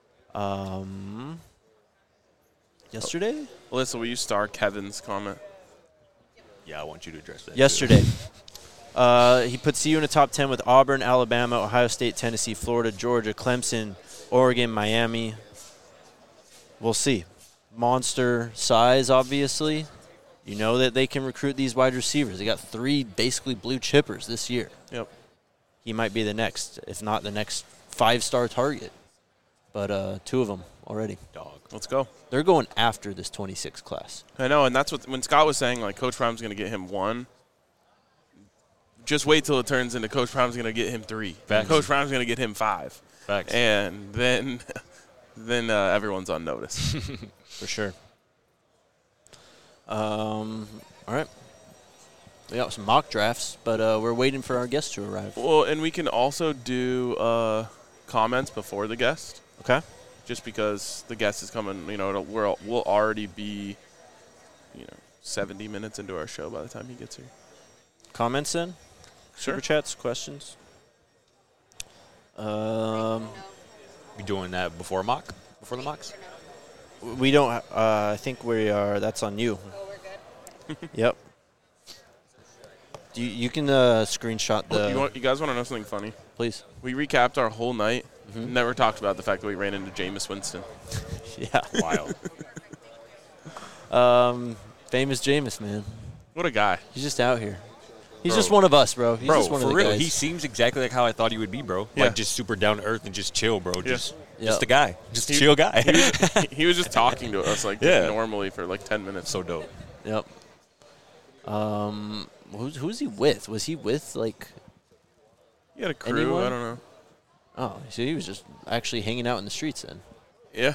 yesterday? Alyssa, will you star Kevin's comment? Yeah, I want you to address that. Yesterday. He put CU in the top 10 with Auburn, Alabama, Ohio State, Tennessee, Florida, Georgia, Clemson, Oregon, Miami. We'll see. Monster size, obviously. You know that they can recruit these wide receivers. They got 3 basically blue chippers this year. Yep. He might be the next, if not the next 5-star target. But 2 of them already. Dog. Let's go. They're going after this 26 class. I know, and that's what when Scott was saying, Coach Prime's going to get him 1. Just wait till it turns into Coach Prime's going to get him 3. Facts. Coach Prime's going to get him 5. Facts. and then everyone's on notice. For sure. All right. We got some mock drafts, but we're waiting for our guest to arrive. Well, and we can also do comments before the guest, Okay. just because the guest is coming. We'll already be, 70 minutes into our show by the time he gets here. Comments in? Sure. Super chats, questions? We doing that before the mocks? We don't. I think we are. That's on you. Yep. You can screenshot the. You guys want to know something funny? Please. We recapped our whole night. Never talked about the fact that we ran into Jameis Winston. Yeah. Wild. Famous Jameis, man. What a guy. He's just out here. He's Bro. just one of us, bro. He's Bro, just one for of the real, guys. he seems exactly like how I thought he would be, bro. Yeah. Like just super down to earth and just chill, bro. Just Yep. a guy. Just a He- chill guy. He was just talking to us Yeah. normally for like 10 minutes. So dope. Yep. Who's he with? Was he with like? He had a crew. Anyone? I don't know. Oh, so he was just actually hanging out in the streets then. Yeah.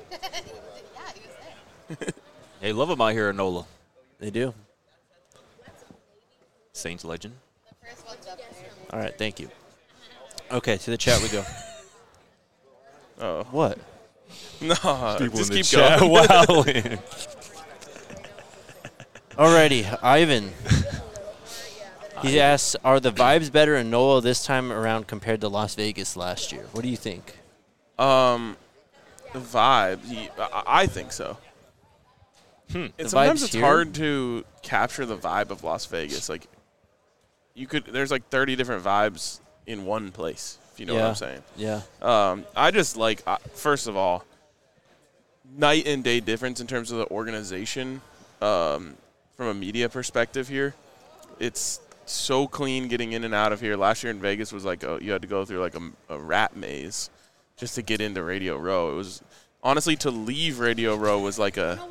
Hey, love him out here at NOLA. They do. Saints legend. All right, thank you. Okay, to the chat we go. Oh. What? No. People Just in the keep chat. going. Wow. Alrighty, Ivan. He asks, are the vibes better in NOLA this time around compared to Las Vegas last year? What do you think? The vibe. I think so. And The sometimes vibes it's here? hard to capture the vibe of Las Vegas. Like, there's like 30 different vibes in one place, if you know what I'm saying. Yeah. I just like, first of all, night and day difference in terms of the organization from a media perspective here. It's so clean getting in and out of here. Last year in Vegas was like you had to go through like a rat maze just to get into Radio Row. It was honestly, to leave Radio Row was like an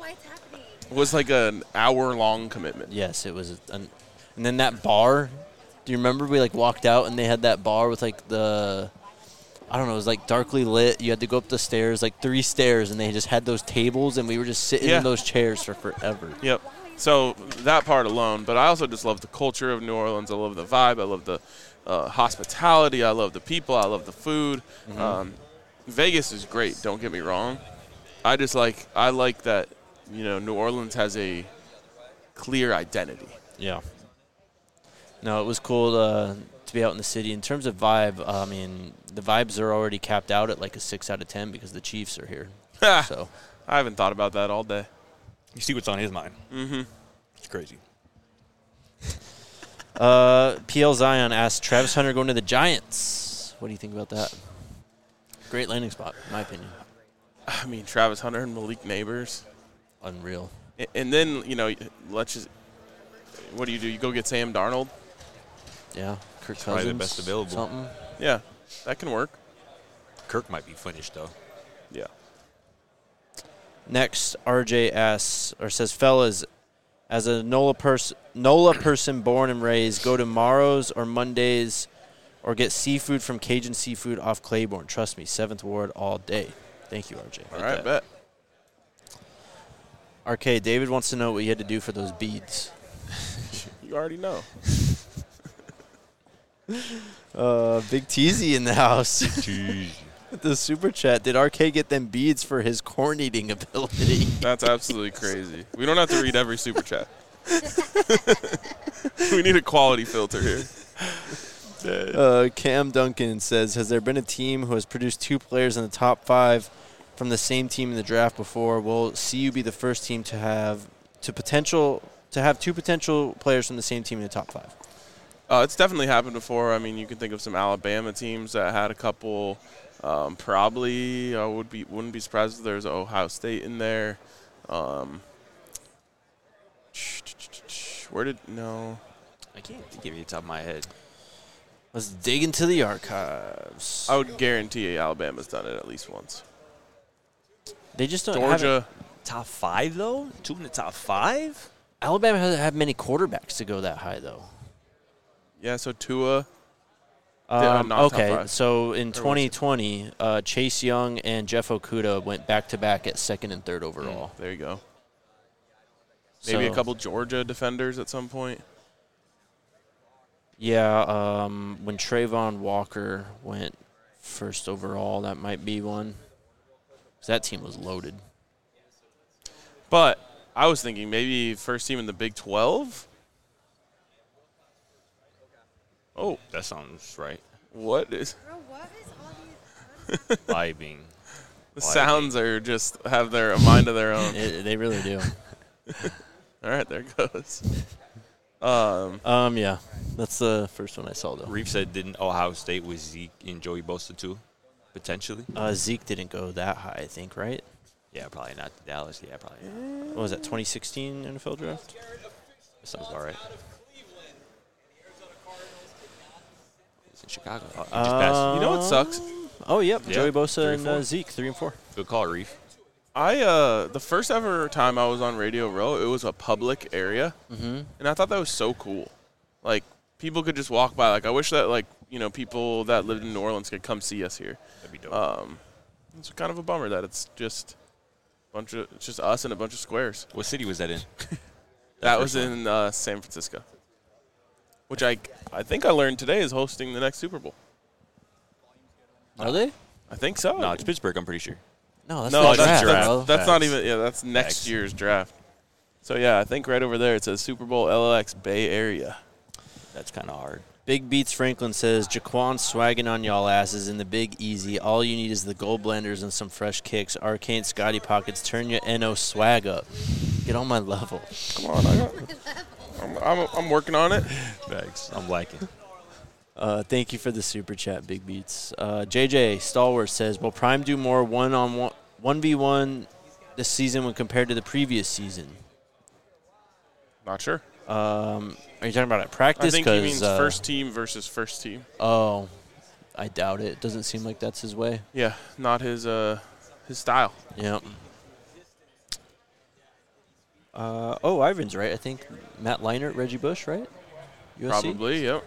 hour-long commitment. Yes, it was. And then that bar, do you remember we like walked out and they had that bar with like I don't know, it was like darkly lit. You had to go up the stairs, like 3 stairs, and they just had those tables and we were just sitting Yeah. in those chairs for forever. Yep. So that part alone, but I also just love the culture of New Orleans. I love the vibe. I love the hospitality. I love the people. I love the food. Vegas is great. Don't get me wrong. I like that. New Orleans has a clear identity. Yeah. No, it was cool to be out in the city. In terms of vibe, I mean, the vibes are already capped out at like a 6 out of 10 because the Chiefs are here. So I haven't thought about that all day. You see what's on his mind. Mm-hmm. It's crazy. PL Zion asked, Travis Hunter going to the Giants. What do you think about that? Great landing spot, in my opinion. I mean, Travis Hunter and Malik Neighbors. Unreal. And then, let's just – what do? You go get Sam Darnold? Yeah. Kirk Cousins. Probably the best available. Something. Yeah, that can work. Kirk might be finished, though. Yeah. Next, RJ asks, or says, fellas, as a NOLA person born and raised, go to Morrow's or Mondays or get seafood from Cajun Seafood off Claiborne. Trust me, 7th Ward all day. Thank you, RJ. All right, bet. RK, David wants to know what you had to do for those beads. You already know. Big Teasy in the house. The super chat. Did RK get them beads for his corn eating ability? That's absolutely crazy. We don't have to read every super chat. We need a quality filter here. Cam Duncan says, has there been a team who has produced 2 players in the top 5 from the same team in the draft before? Will CU be the first team to have 2 potential players from the same team in the top 5? It's definitely happened before. I mean, you can think of some Alabama teams that had a couple. Probably I wouldn't be surprised if there's Ohio State in there. I can't give you the top of my head. Let's dig into the archives. I would guarantee Alabama's done it at least once. They just don't have it. Georgia. Top 5, though? 2 in the top 5? Alabama doesn't have many quarterbacks to go that high, though. Yeah, so Tua. Not top Okay, five. so in was it? 2020, Chase Young and Jeff Okuda went back-to-back at second and third overall. There you go. Maybe a So- couple Georgia defenders at some point. Yeah, when Trayvon Walker went first overall, that might be one. 'Cause that team was loaded. But I was thinking maybe first team in the Big 12. Oh, That sounds right. what is Vibing. the sounds are just have their a mind of their own. They really do. All right, there it goes. Yeah, that's the first one I saw though. Reef said didn't Ohio State with Zeke and Joey Bosa too, potentially. Zeke didn't go that high, I think, right? Yeah, probably not Dallas. Yeah, probably not. What was that, 2016 NFL draft? That sounds all right. It's in Chicago. Oh, you just passed. You know what sucks? Oh, yep, Yeah, Joey Bosa 3 and and 4. Zeke, 3 and 4. Good call, Reef. The first ever time I was on Radio Row, it was a public area, and I thought that was so cool. Like people could just walk by. Like I wish that people that lived in New Orleans could come see us here. That'd be dope. It's kind of a bummer that it's just it's just us and a bunch of squares. What city was that in? That was in San Francisco, which I think I learned today is hosting the next Super Bowl. Are they? I think so. No, it's Pittsburgh, I'm pretty sure. No, that's No, not that's, draft, that's, bro. that's not Facts. even. Yeah, that's next Facts. year's draft. So yeah, I think right over there it says Super Bowl LX Bay Area. That's kind of hard. Big Beats Franklin says, Jaquan swagging on y'all asses in the Big Easy. All you need is the gold blenders and some fresh kicks. Arcane Scotty Pockets, turn your NO swag up. Get on my level. Come on, I'm working on it. Thanks. I'm liking. Thank you for the super chat, Big Beats. JJ Stalwart says, will Prime do more 1v1 this season when compared to the previous season? Not sure. Are you talking about at practice? I think he 'Cause, means first team versus first team. Oh, I doubt it. It doesn't seem like that's his way. Yeah, not his style. Yep. Ivan's right. I think Matt Leinart, Reggie Bush, right? USC? Probably, yep.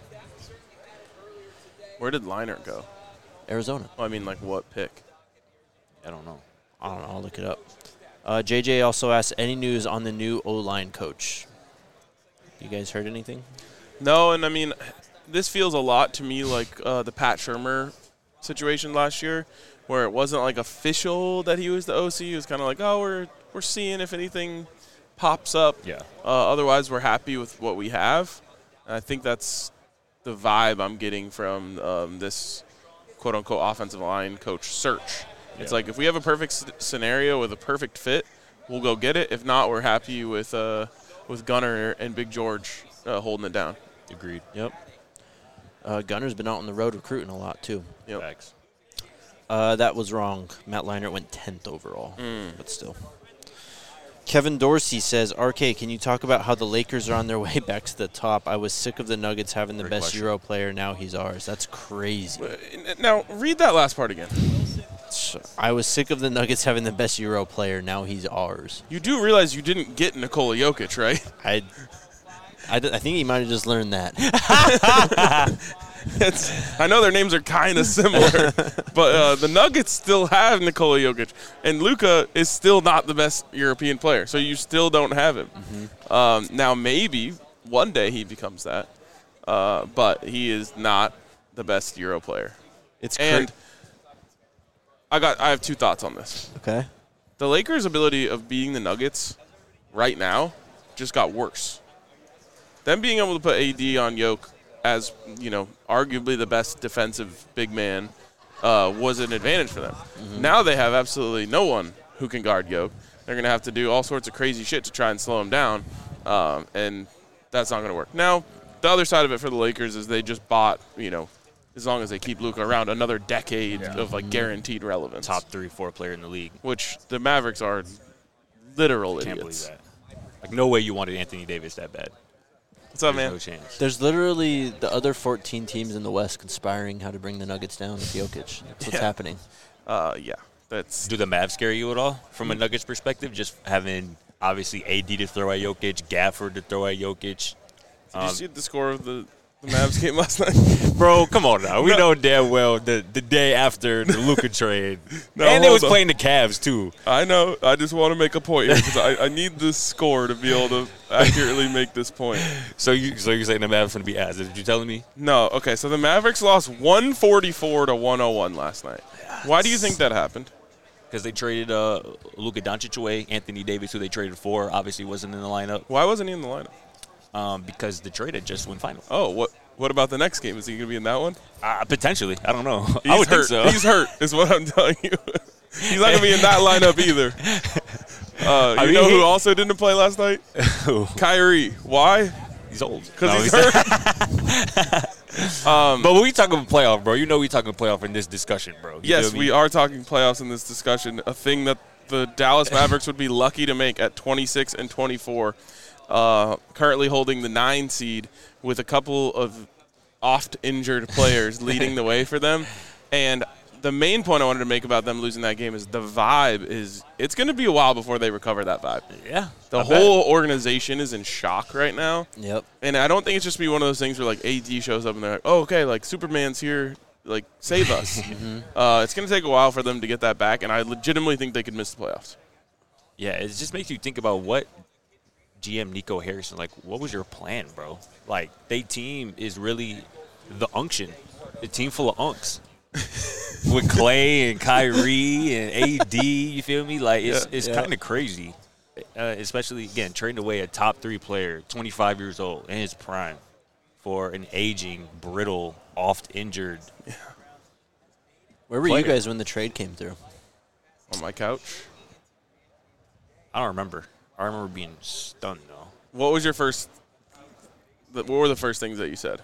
Where did Leinart go? Arizona. Well, I mean, like what pick? I don't know. I don't know. I'll look it up. JJ also asked, any news on the new O-line coach? You guys heard anything? No, and I mean, this feels a lot to me like the Pat Shurmur situation last year, where it wasn't like official that he was the OC. It was kind of like, oh, we're seeing if anything pops up. Yeah. Otherwise, we're happy with what we have. And I think that's the vibe I'm getting from this quote-unquote offensive line coach search. It's like if we have a perfect scenario with a perfect fit, we'll go get it. If not, we're happy with Gunner and Big George holding it down. Agreed. Yep. Gunner's been out on the road recruiting a lot, too. Yep. Facts. That was wrong. Matt Leinart went 10th overall, but still. Kevin Dorsey says, RK, can you talk about how the Lakers are on their way back to the top? I was sick of the Nuggets having the Great best question. Euro player. Now he's ours. That's crazy. Now, read that last part again. I was sick of the Nuggets having the best Euro player. Now he's ours. You do realize you didn't get Nikola Jokic, right? I think he might have just learned that. I know their names are kind of similar, but the Nuggets still have Nikola Jokic, and Luka is still not the best European player, so you still don't have him. Now, maybe one day he becomes that, but he is not the best Euro player. It's And I have two thoughts on this. okay. The Lakers' ability of beating the Nuggets right now just got worse. Them being able to put AD on Jokic as, arguably the best defensive big man was an advantage for them. Now they have absolutely no one who can guard Jokic. They're going to have to do all sorts of crazy shit to try and slow him down, and that's not going to work. Now, the other side of it for the Lakers is they just bought, as long as they keep Luka around, another decade of, guaranteed relevance. Top 3-4 player in the league. Which the Mavericks are literal Can't idiots. believe that. No way you wanted Anthony Davis that bad. What's up, There's man? no chance. There's literally the other 14 teams in the West conspiring how to bring the Nuggets down with Jokic. That's what's happening. Yeah. That's Do the Mavs scare you at all from a Nuggets perspective? Just having, obviously, AD to throw at Jokic, Gafford to throw at Jokic. Did you see the score of the The Mavs game last night. Bro, come on now. We know damn well the day after the Luka trade. No, and they was hold on. playing the Cavs, too. I know. I just want to make a point here because I need this score to be able to accurately make this point. So you're saying the Mavs going to be ass. Is what you telling me? No. Okay, so the Mavericks lost 144 to 101 last night. Why do you think that happened? Because they traded Luka Doncic away. Anthony Davis, who they traded for, obviously wasn't in the lineup Why wasn't he in the lineup? because the trade had just went final. Oh, what about the next game? Is he going to be in that one? Potentially. I don't know. He's I would hurt. think so. He's hurt is what I'm telling you. He's not going to be in that lineup either. You know who also didn't play last night? Who? Kyrie. Why? He's old. Because No, he's hurt. But when we talking playoff, bro, you know we talking playoff in this discussion, bro. You Yes, feel me? we are talking playoffs in this discussion, a thing that the Dallas Mavericks would be lucky to make at 26 and 24, currently holding the 9 seed with a couple of oft-injured players leading the way for them. And the main point I wanted to make about them losing that game is the vibe is – it's going to be a while before they recover that vibe. Yeah. The whole organization is in shock right now. Yep. And I don't think it's just be one of those things where, like, AD shows up and they're like, oh, okay, like, Superman's here. Like, save us. It's going to take a while for them to get that back, and I legitimately think they could miss the playoffs. Yeah, it just makes you think about what GM Nico Harrison, like, what was your plan, bro? Like, they team is really the unction, a team full of unks. With Clay and Kyrie and AD, you feel me? Like, it's kind of crazy. Especially, again, trading away a top 3 player, 25 years old, in his prime, for an aging, brittle, oft-injured Where were player. you guys when the trade came through? On my couch. I don't remember. I remember being stunned, though. What was your first – what were the first things that you said?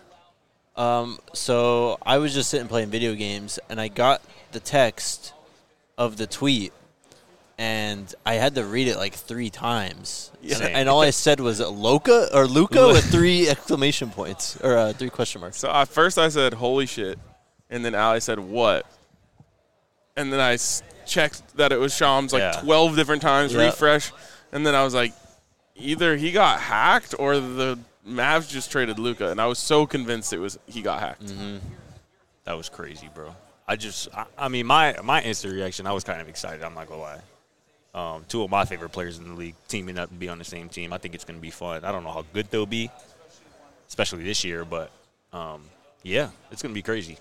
So I was just sitting playing video games, and I got the text of the tweet, and I had to read it like 3 times. And all I said was Luka with 3 exclamation points or 3 question marks. So at first I said, holy shit. And then Ali said, what? And then I checked that it was Shams like 12 different times, refresh. And then I was like, either he got hacked or the Mavs just traded Luka. And I was so convinced it was he got hacked. Mm-hmm. That was crazy, bro. I mean, my instant reaction, I was kind of excited. I'm not going to lie. 2 of my favorite players in the league teaming up and be on the same team. I think it's going to be fun. I don't know how good they'll be, especially this year. But, yeah, it's going to be crazy.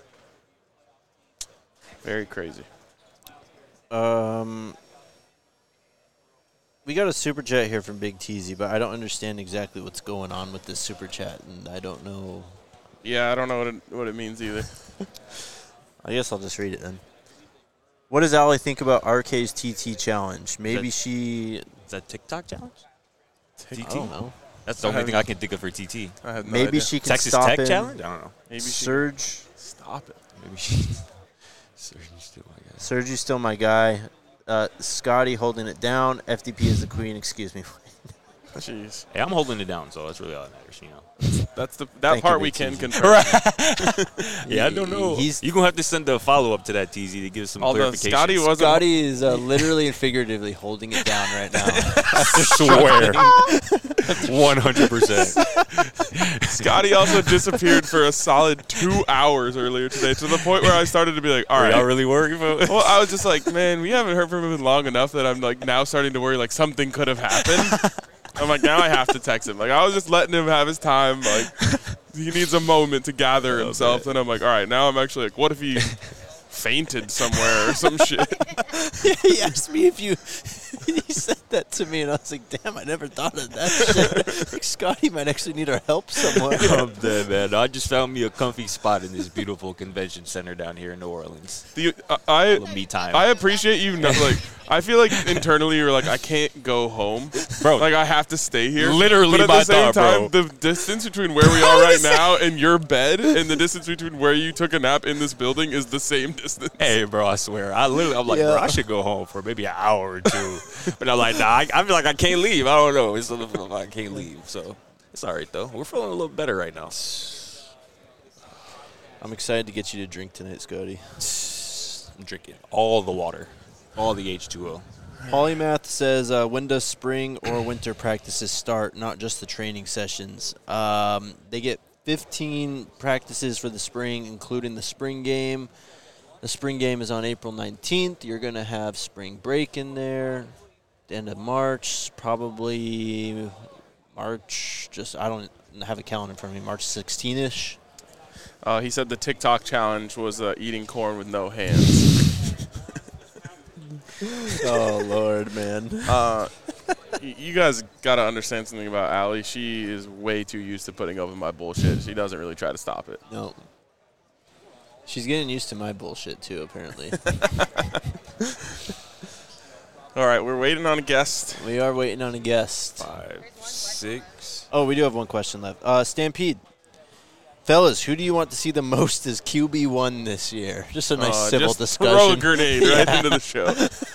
Very crazy. We got a super chat here from Big Teasy, but I don't understand exactly what's going on with this super chat, and I don't know. Yeah, I don't know what it means either. I guess I'll just read it then. What does Allie think about RK's TT challenge? Maybe she... Is that TikTok challenge? I don't know. That's the only thing I can think of for TT. I have no Maybe idea. she can Texas stop Tech him. challenge? I don't know. Maybe Surge. Stop it. Maybe she. Sergio's still my guy. Sergi's still my guy. Scotty holding it down. FDP is the queen. Excuse me. Jeez. Hey, I'm holding it down, so that's really all that matters, you know. That's that Thank part you, we Big can Teasy. confirm. Yeah, I don't know. You're going to have to send a follow-up to that, TZ, to give some Although clarification. Scotty wasn't. Scotty is literally and figuratively holding it down right now. I swear. 100%. Scotty also disappeared for a solid 2 hours earlier today, to the point where I started to be like, all Are right. y'all really worried about it? Well, I was just like, man, we haven't heard from him in long enough that I'm like now starting to worry like something could have happened. I'm like, now I have to text him. Like, I was just letting him have his time. Like, he needs a moment to gather himself. And I'm like, all right, now I'm actually like, what if he fainted somewhere or some shit? He asked me if you... He said that to me, and I was like, damn, I never thought of that shit. Like, Scotty might actually need our help somewhere. I'm dead, man. I just found me a comfy spot in this beautiful convention center down here in New Orleans. I Me time. appreciate you. Like, I feel like internally you're like, I can't go home, Bro. Like, I have to stay here. Literally but at my the same thought, time, bro. the distance between where we are right now and your bed, and the distance between where you took a nap in this building is the same distance. Hey, bro, I swear. I'm like, Yeah. bro, I should go home for maybe an hour or 2. But I'm like, nah, I feel like I can't leave. I don't know. It's I can't leave. So it's all right, though. We're feeling a little better right now. I'm excited to get you to drink tonight, Scotty. I'm drinking all the water, all the H2O. Polymath says, when does spring or winter practices start, not just the training sessions? They get 15 practices for the spring, including the spring game. The spring game is on April 19th. You're going to have spring break in there. The end of March, probably March, I don't have a calendar in front of me, March 16-ish. He said the TikTok challenge was eating corn with no hands. Oh, Lord, man. You guys got to understand something about Allie. She is way too used to putting up with my bullshit. She doesn't really try to stop it. No. She's getting used to my bullshit, too, apparently. All right, we're waiting on a guest. We are waiting on a guest. 5, 6. Oh, we do have one question left. Stampede. Fellas, who do you want to see the most as QB1 this year? Just a nice civil just discussion. Throw a grenade right into the show.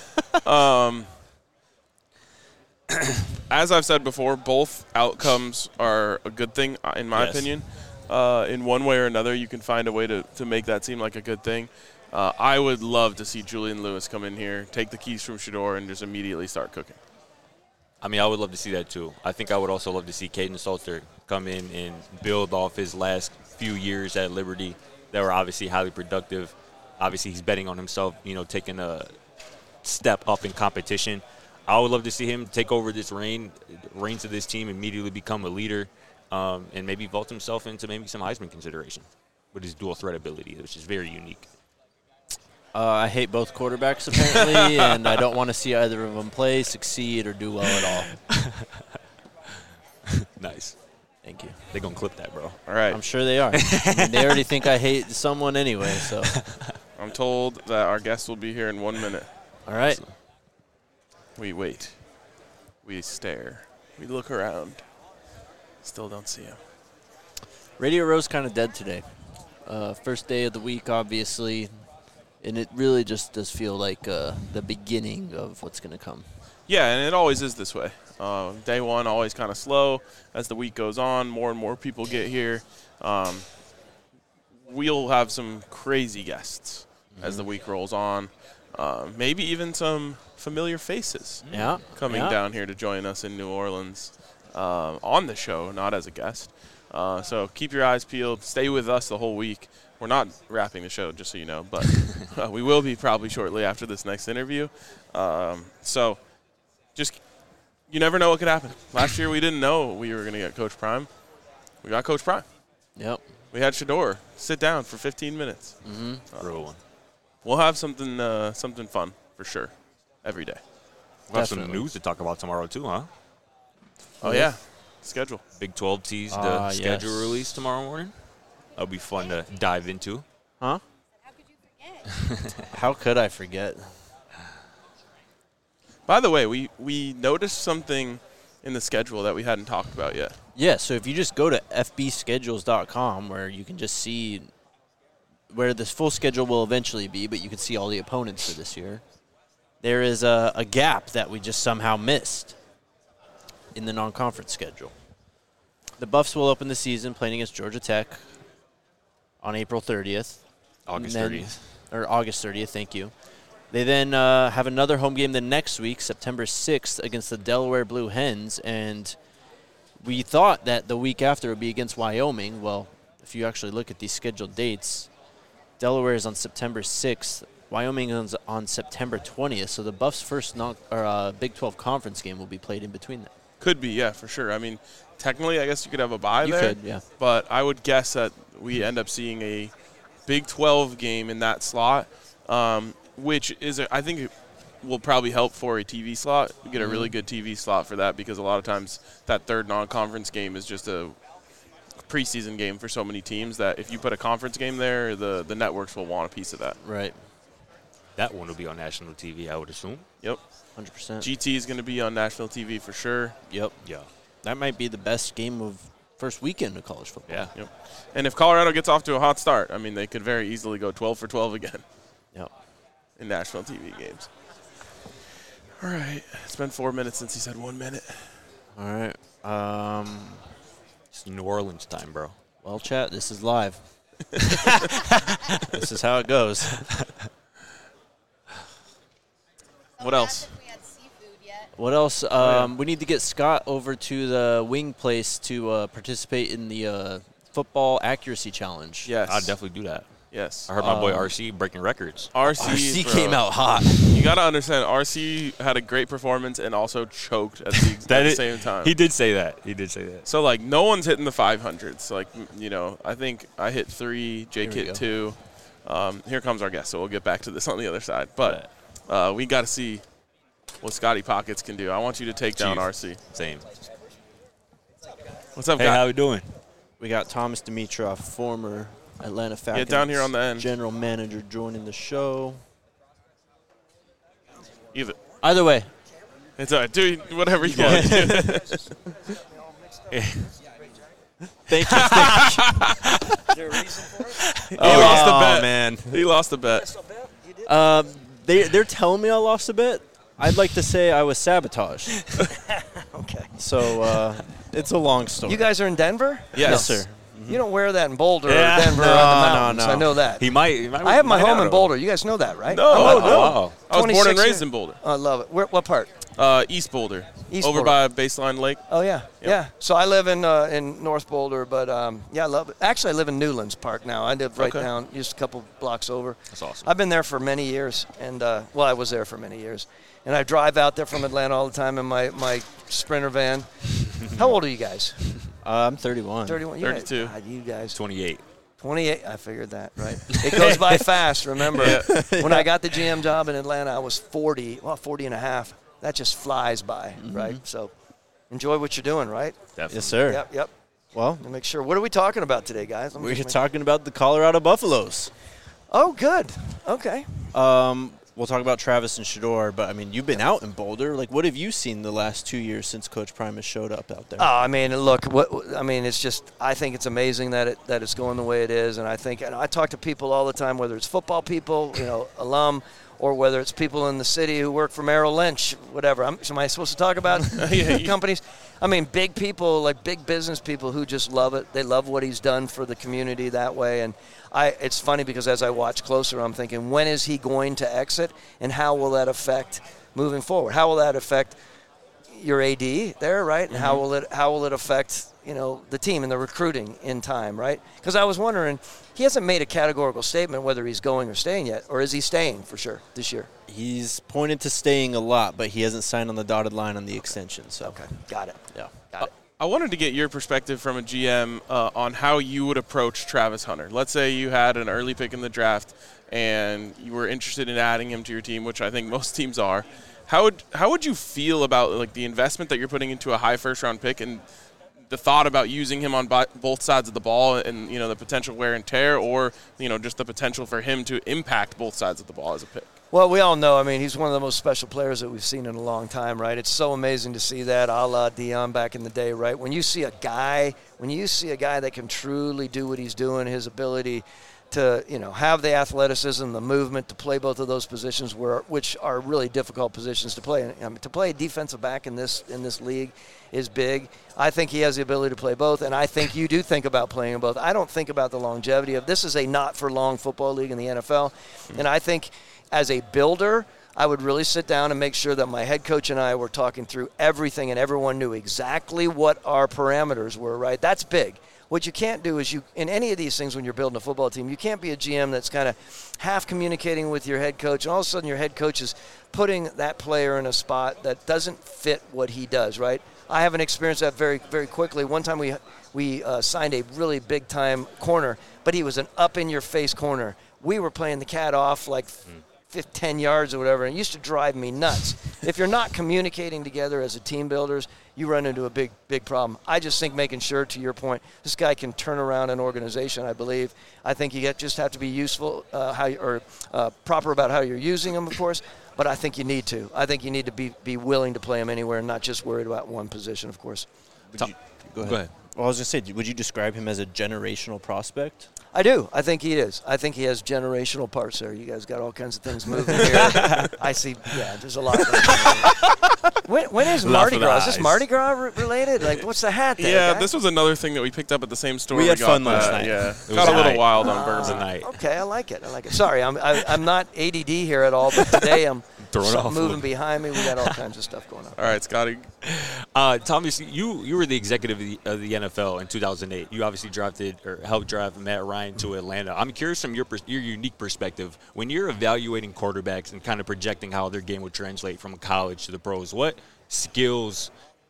As I've said before, both outcomes are a good thing, in my opinion. In one way or another, you can find a way to make that seem like a good thing. I would love to see Julian Lewis come in here, take the keys from Shedeur, and just immediately start cooking. I mean, I would love to see that too. I think I would also love to see Caden Salter come in and build off his last few years at Liberty that were obviously highly productive. Obviously, he's betting on himself, taking a step up in competition. I would love to see him take over this reins of this team, immediately become a leader, and maybe vault himself into maybe some Heisman consideration with his dual threat ability, which is very unique. I hate both quarterbacks, apparently, and I don't want to see either of them play, succeed, or do well at all. Nice. Thank you. They're going to clip that, bro. All right. I'm sure they are. I mean, they already think I hate someone anyway, so. I'm told that our guest will be here in 1 minute. All right. We wait. We stare. We look around. Still don't see him. Radio Row's kind of dead today. First day of the week, obviously, and it really just does feel like the beginning of what's going to come. Yeah, and it always is this way. Day one, always kind of slow. As the week goes on, more and more people get here. We'll have some crazy guests as the week rolls on. Maybe even some familiar faces coming down here to join us in New Orleans on the show, not as a guest. So keep your eyes peeled. Stay with us the whole week. We're not wrapping the show, just so you know, but we will be probably shortly after this next interview. So just you never know what could happen. Last year we didn't know we were going to get Coach Prime. We got Coach Prime. Yep. We had Shedeur sit down for 15 minutes. Real one. We'll have something fun for sure every day. We'll have some news to talk about tomorrow too, huh? Oh, yeah. Schedule. Big 12 teased the schedule release tomorrow morning. That'll be fun to dive into. Huh? How could you forget? How could I forget? By the way, we noticed something in the schedule that we hadn't talked about yet. Yeah, so if you just go to fbschedules.com where you can just see where this full schedule will eventually be, but you can see all the opponents for this year, there is a gap that we just somehow missed in the non-conference schedule. The Buffs will open the season playing against Georgia Tech on April 30th. August 30th. Or August 30th, thank you. They then have another home game the next week, September 6th, against the Delaware Blue Hens. And we thought that the week after would be against Wyoming. Well, if you actually look at these scheduled dates, Delaware is on September 6th. Wyoming is on September 20th. So the Buffs' first Big 12 conference game will be played in between them. Could be, yeah, for sure. I mean, technically, I guess you could have a bye there. You could, yeah. But I would guess that we end up seeing a Big 12 game in that slot, which is, I think, it will probably help for a TV slot. You get a really good TV slot for that because a lot of times that third non-conference game is just a preseason game for so many teams that if you put a conference game there, the networks will want a piece of that. Right. That one will be on national TV, I would assume. Yep. 100%. GT is going to be on national TV for sure. Yep. Yeah. That might be the best game of first weekend of college football. Yeah. Yep. And if Colorado gets off to a hot start, I mean, they could very easily go 12 for 12 again. Yep. In national TV games. All right. It's been 4 minutes since he said 1 minute. All right. It's New Orleans time, bro. Well, chat, this is live. This is how it goes. What else? If we had seafood yet. What else? We need to get Scott over to the wing place to participate in the football accuracy challenge. Yes. I'd definitely do that. Yes. I heard my boy RC breaking records. RC bro. came out hot. You got to understand, RC had a great performance and also choked at the same time. He did say that. So, like, no one's hitting the 500s. Like, I think I hit 3, Jake Here we hit go. 2. Here comes our guest, so we'll get back to this on the other side. But we got to see what Scotty Pockets can do. I want you to take down RC. Same. What's up, Hey, guy? how we doing? We got Thomas Dimitrov, former Atlanta Falcons. down here on the end. General manager joining the show. Either way. It's all right. Do whatever you want to do. Thank you. He lost the bet. Man. He lost the bet. They're telling me I lost a bet. I'd like to say I was sabotaged. Okay. So it's a long story. You guys are in Denver? Yes, sir. You don't wear that in Boulder Yeah. or Denver No, or the no, mountains. no. I know that. He might I have my home in have. Boulder. You guys know that, right? No. Oh, wow. I was born and 26 raised years. in Boulder. I love it. What part? East Boulder. East over Boulder. by Baseline Lake. Oh, yeah. Yep. Yeah. So I live in North Boulder, but, I love it. Actually, I live in Newlands Park now. I live right Okay. down, just a couple blocks over. That's awesome. I've been there for many years, and, I was there for many years. And I drive out there from Atlanta all the time in my Sprinter van. How old are you guys? I'm 31. 31? 32. God, you guys. 28. 28, I figured that, right? It goes by fast, remember. When I got the GM job in Atlanta, I was 40 and a half. That just flies by, right? So enjoy what you're doing, right? Definitely. Yes, sir. Yep. Well, Let me make sure. What are we talking about today, guys? Let me we're just make- talking about the Colorado Buffaloes. Oh, good. Okay. We'll talk about Travis and Shador, but, I mean, you've been out in Boulder. Like, what have you seen the last 2 years since Coach Primus showed up out there? Oh, I mean, look. It's just. I think it's amazing that it's going the way it is, and I talk to people all the time, whether it's football people, alum, or whether it's people in the city who work for Merrill Lynch, whatever. Am I supposed to talk about companies? I mean, big people, like big business people who just love it. They love what he's done for the community that way. And it's funny because as I watch closer, I'm thinking, when is he going to exit, and how will that affect moving forward? How will that affect your AD there, right? And how will it affect the team and the recruiting in time, right? Because I was wondering, he hasn't made a categorical statement whether he's going or staying yet, or is he staying for sure this year? He's pointed to staying a lot, but he hasn't signed on the dotted line on the extension. So Okay, got it. yeah. Got it. I wanted to get your perspective from a GM on how you would approach Travis Hunter. Let's say you had an early pick in the draft and you were interested in adding him to your team, which I think most teams are. How would you feel about like the investment that you're putting into a high first-round pick and the thought about using him on both sides of the ball and the potential wear and tear, or just the potential for him to impact both sides of the ball as a pick? Well, we all know, he's one of the most special players that we've seen in a long time, right? It's so amazing to see that, a la Dion back in the day, right? When you see a guy that can truly do what he's doing, his ability to, have the athleticism, the movement to play both of those positions, which are really difficult positions to play. To play a defensive back in this league is big. I think he has the ability to play both, and I think you do think about playing them both. I don't think about the longevity of this is a not-for-long football league in the NFL, and I think as a builder, I would really sit down and make sure that my head coach and I were talking through everything and everyone knew exactly what our parameters were, right? That's big. What you can't do is in any of these things when you're building a football team, you can't be a GM that's kind of half communicating with your head coach, and all of a sudden your head coach is putting that player in a spot that doesn't fit what he does, right? I haven't experienced that very, very quickly. One time we signed a really big-time corner, but he was an up-in-your-face corner. We were playing the cat off like 10 yards or whatever, and it used to drive me nuts. If you're not communicating together as a team builders, you run into a big, big problem. I just think making sure, to your point, this guy can turn around an organization, I believe. I think you just have to be useful proper about how you're using him, of course, but I think you need to. I think you need to be willing to play him anywhere and not just worried about one position, of course. Go ahead. Well, I was going to say, would you describe him as a generational prospect? I do. I think he is. I think he has generational parts there. You guys got all kinds of things moving here. I see. Yeah, there's a lot. When is Mardi Gras? Is this Mardi Gras related? Like, what's the hat there? Yeah, guy? this was another thing that we picked up at the same store. We had got fun last night. Yeah, It got was a little night. wild on It was a bourbon. night. Okay, I like it. Sorry, I'm not ADD here at all, but today I'm Throw it something off. moving behind me. We got all kinds of stuff going on. All right, Scotty. Thomas, you were the executive of the NFL in 2008. You obviously drafted or helped draft Matt Ryan to Atlanta. I'm curious from your unique perspective, when you're evaluating quarterbacks and kind of projecting how their game would translate from college to the pros, what skills,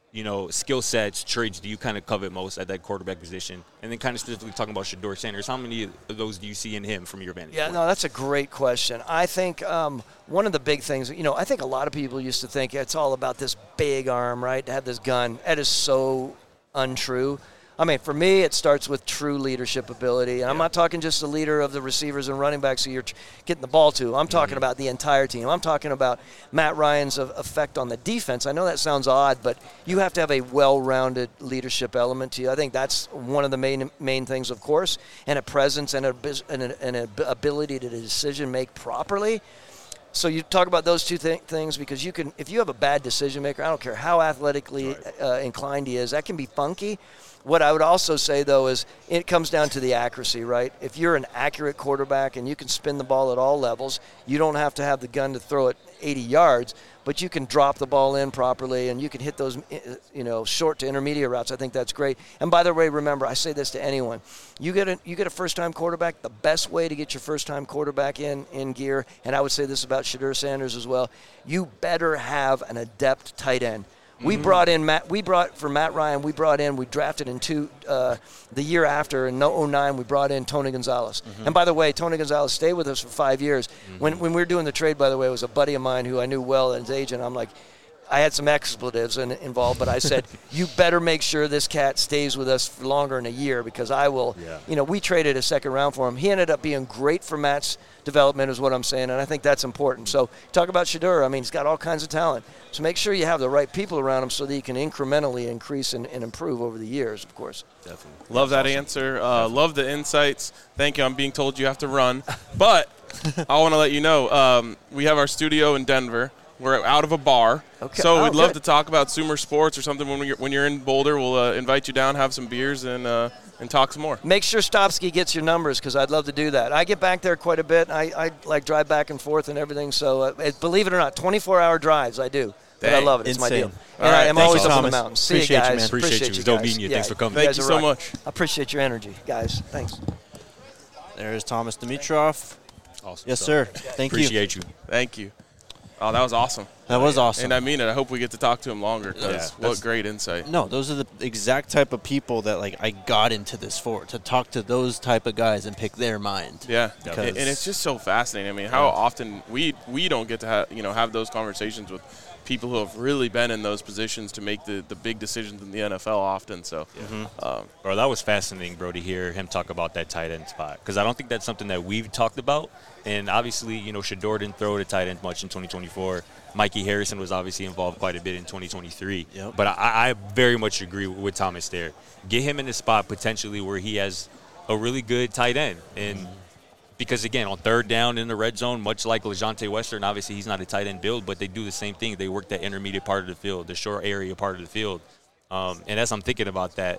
skill sets, traits do you kind of covet most at that quarterback position? And then kind of specifically talking about Shedeur Sanders, how many of those do you see in him from your vantage point? No, that's a great question. I think one of the big things, I think a lot of people used to think it's all about this big arm, right, to have this gun. That is so untrue. I mean, for me, it starts with true leadership ability. And I'm not talking just the leader of the receivers and running backs who you're getting the ball to. I'm talking about the entire team. I'm talking about Matt Ryan's effect on the defense. I know that sounds odd, but you have to have a well-rounded leadership element to you. I think that's one of the main things, of course, and a presence and an ability to decision-make properly. So you talk about those two things because if you have a bad decision maker, I don't care how athletically inclined he is, that can be funky. What I would also say, though, is it comes down to the accuracy, right? If you're an accurate quarterback and you can spin the ball at all levels, you don't have to have the gun to throw it 80 yards, but you can drop the ball in properly and you can hit those, short to intermediate routes. I think that's great. And by the way, remember, I say this to anyone. You get a first-time quarterback, the best way to get your first-time quarterback in gear, and I would say this about Shedeur Sanders as well, you better have an adept tight end. We brought in Matt Ryan. We drafted in the year after in 2009. We brought in Tony Gonzalez. And by the way, Tony Gonzalez stayed with us for 5 years. When we were doing the trade, by the way, it was a buddy of mine who I knew well as agent. I'm like, I had some expletives involved, but I said, you better make sure this cat stays with us for longer than a year because I will. Yeah. We traded a second round for him. He ended up being great for Matt's development is what I'm saying, and I think that's important. So talk about Shedeur. I mean, he's got all kinds of talent. So make sure you have the right people around him so that you can incrementally increase and improve over the years, of course. Definitely. Love that answer. Love the insights. Thank you. I'm being told you have to run. But I want to let you know, we have our studio in Denver. We're out of a bar. Okay. So we'd love to talk about Sumer Sports or something when you're in Boulder. We'll invite you down, have some beers, and talk some more. Make sure Stopsky gets your numbers because I'd love to do that. I get back there quite a bit. I drive back and forth and everything. So believe it or not, 24-hour drives I do. But I love it. It's my deal. All right. I'm always up on the mountain. See you guys. You, man. Appreciate you. Don't mean you. Thanks for coming. Thank you so much. I appreciate your energy, guys. Thanks. There's Thomas Dimitrov. Awesome. Yes, sir. Thank you. Appreciate you. Thank you. Oh, that was awesome. That was awesome. And I mean it. I hope we get to talk to him longer because what great insight. No, those are the exact type of people that I got into this for, to talk to those type of guys and pick their mind. Yeah, and it's just so fascinating. I mean, how often we don't get to have those conversations with people who have really been in those positions to make the big decisions in the NFL often. So, bro, that was fascinating, bro, to hear him talk about that tight end spot because I don't think that's something that we've talked about. And obviously, Shedeur didn't throw to tight end much in 2024. Mikey Harrison was obviously involved quite a bit in 2023. Yep. But I very much agree with Thomas there. Get him in the spot potentially where he has a really good tight end. And because, again, on third down in the red zone, much like LeJontay Western, obviously he's not a tight end build, but they do the same thing. They work that intermediate part of the field, the short area part of the field. And as I'm thinking about that,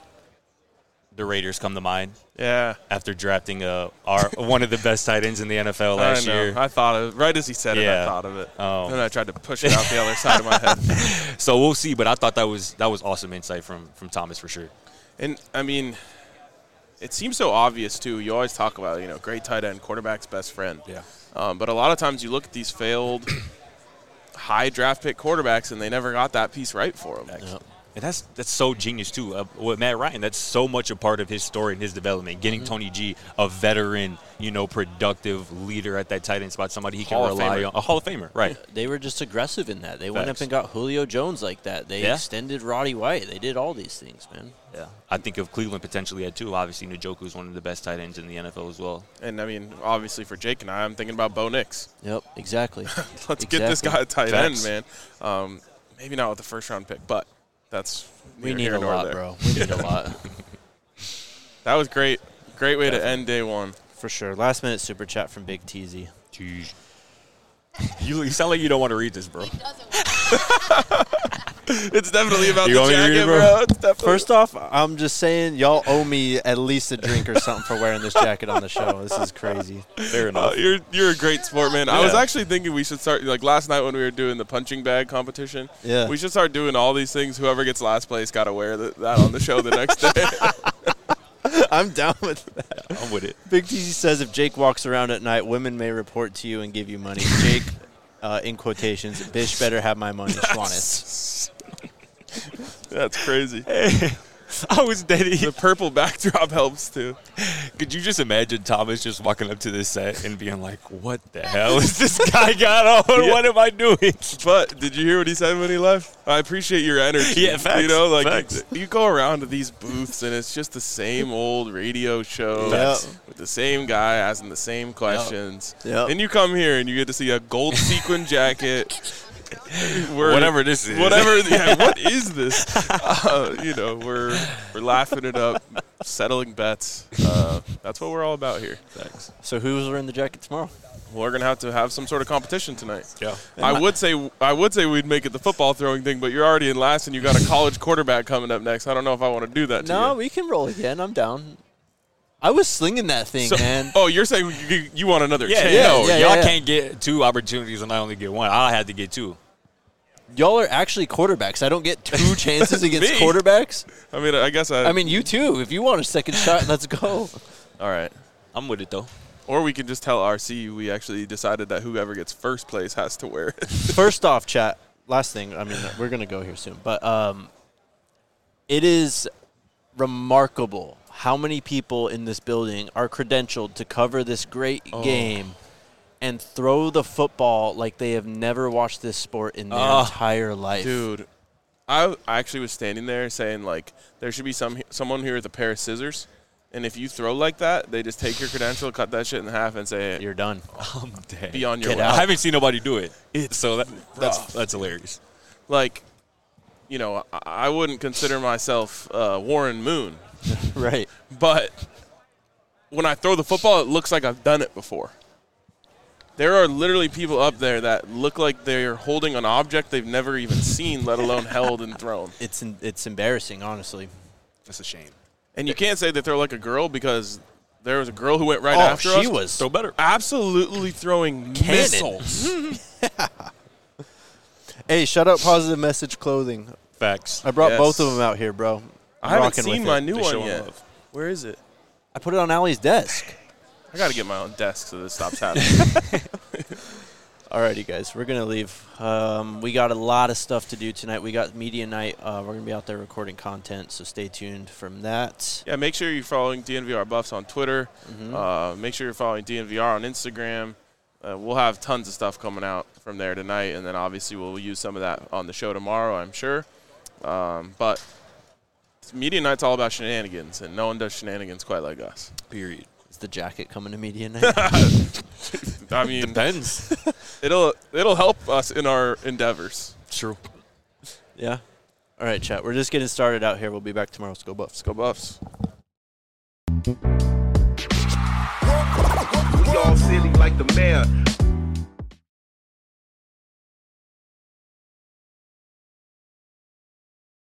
the Raiders come to mind. Yeah. After drafting one of the best tight ends in the NFL last year. I thought of it. Right as he said it, I thought of it. And I tried to push it out the other side of my head. So we'll see, but I thought that was awesome insight from Thomas for sure. And, I mean, it seems so obvious, too. You always talk about, great tight end, quarterback's best friend. Yeah. But a lot of times you look at these failed high draft pick quarterbacks, and they never got that piece right for them. Yep. And that's so genius, too. With Matt Ryan, that's so much a part of his story and his development. Getting Tony G, a veteran, productive leader at that tight end spot, somebody he can rely on. A Hall of Famer, right. They were just aggressive in that. They went up and got Julio Jones like that. They extended Roddy White. They did all these things, man. Yeah. I think of Cleveland potentially had two. Obviously, Njoku is one of the best tight ends in the NFL as well. And, I mean, obviously for Jake and I'm thinking about Bo Nix. Yep, exactly. Let's get this guy a tight end, man. Maybe not with the first-round pick, but we need a lot, bro. We need a lot. That was great. Great way to end day one. For sure. Last minute super chat from Big TZ. You sound like you don't want to read this, bro. He doesn't want to. It's definitely about You the want me to read jacket, it, bro? bro. It's definitely First off, I'm just saying y'all owe me at least a drink or something for wearing this jacket on the show. This is crazy. Fair enough. You're a great sport, man. I was Yeah. actually thinking we should start, like last night when we were doing the punching bag competition. Yeah. We should start doing all these things. Whoever gets last place got to wear that on the show the next day. I'm down with that. I'm with it. Big TC says if Jake walks around at night, women may report to you and give you money. Jake, in quotations, bitch better have my money, Schwanitz. That's crazy. I was dating. The purple backdrop helps too. Could you just imagine Thomas just walking up to this set and being like, what the hell is this guy got on? Yeah. What am I doing? But did you hear what he said when he left? I appreciate your energy. Yeah, facts, You know, like facts. you go around to these booths and it's just the same old radio show with the same guy asking the same questions. Yep. And you come here and you get to see a gold sequin jacket. Whatever this is. Whatever. Yeah, what is this? You know, we're laughing it up, settling bets. That's what we're all about here. Thanks. So who's wearing the jacket tomorrow? We're gonna have some sort of competition tonight. Yeah. I would say we'd make it the football throwing thing, but you're already in last, and you got a college quarterback coming up next. I don't know if I want to do that. No, to you. we can roll again. I'm down. I was slinging that thing, So- man. Oh, you're saying you want another Yeah, chance? no, yeah, y'all yeah. can't get 2 opportunities and I only get 1. I had to get 2. Y'all are actually quarterbacks. I don't get 2 chances against Me? quarterbacks. I mean, I guess I mean, you too. If you want a second shot, let's go. all right. I'm with it, though. Or we can just tell RC we actually decided that whoever gets first place has to wear it. First off, chat, last thing, I mean, we're going to go here soon, but it is remarkable how many people in this building are credentialed to cover this great game and throw the football like they have never watched this sport in their entire life. Dude, I actually was standing there saying, like, there should be someone here with a pair of scissors, and if you throw like that, they just take your credential, cut that shit in half, and say, You're done. I'm dead. be on your Get way. out. I haven't seen nobody do it. It's So rough. that's hilarious. Like, you know, I wouldn't consider myself Warren Moon, Right. but when I throw the football, it looks like I've done it before. There are literally people up there that look like they're holding an object they've never even seen, let alone held and thrown. It's embarrassing, honestly. That's a shame. And you can't say they throw like a girl because there was a girl who went right Oh, after us. she was Throw better. Absolutely throwing Cannon. missiles. Hey, shout out Positive Message Clothing. Facts. I brought Yes. both of them out here, bro. I haven't Rocking seen with my it. new They one showing yet. love. Where is it? I put it on Allie's desk. I got to get my own desk so this stops happening. Alrighty, guys, we're gonna leave. We got a lot of stuff to do tonight. We got media night. We're gonna be out there recording content, so stay tuned from that. Yeah, make sure you're following DNVR Buffs on Twitter. Mm-hmm. Make sure you're following DNVR on Instagram. We'll have tons of stuff coming out from there tonight, and then obviously we'll use some of that on the show tomorrow, I'm sure. But media night's all about shenanigans, and no one does shenanigans quite like us. Period. Is the jacket coming to media night? I mean, Depends. it'll help us in our endeavors. True. Yeah. All right, chat. We're just getting started out here. We'll be back tomorrow. Let's go Buffs. Go Buffs. We all silly like the mayor.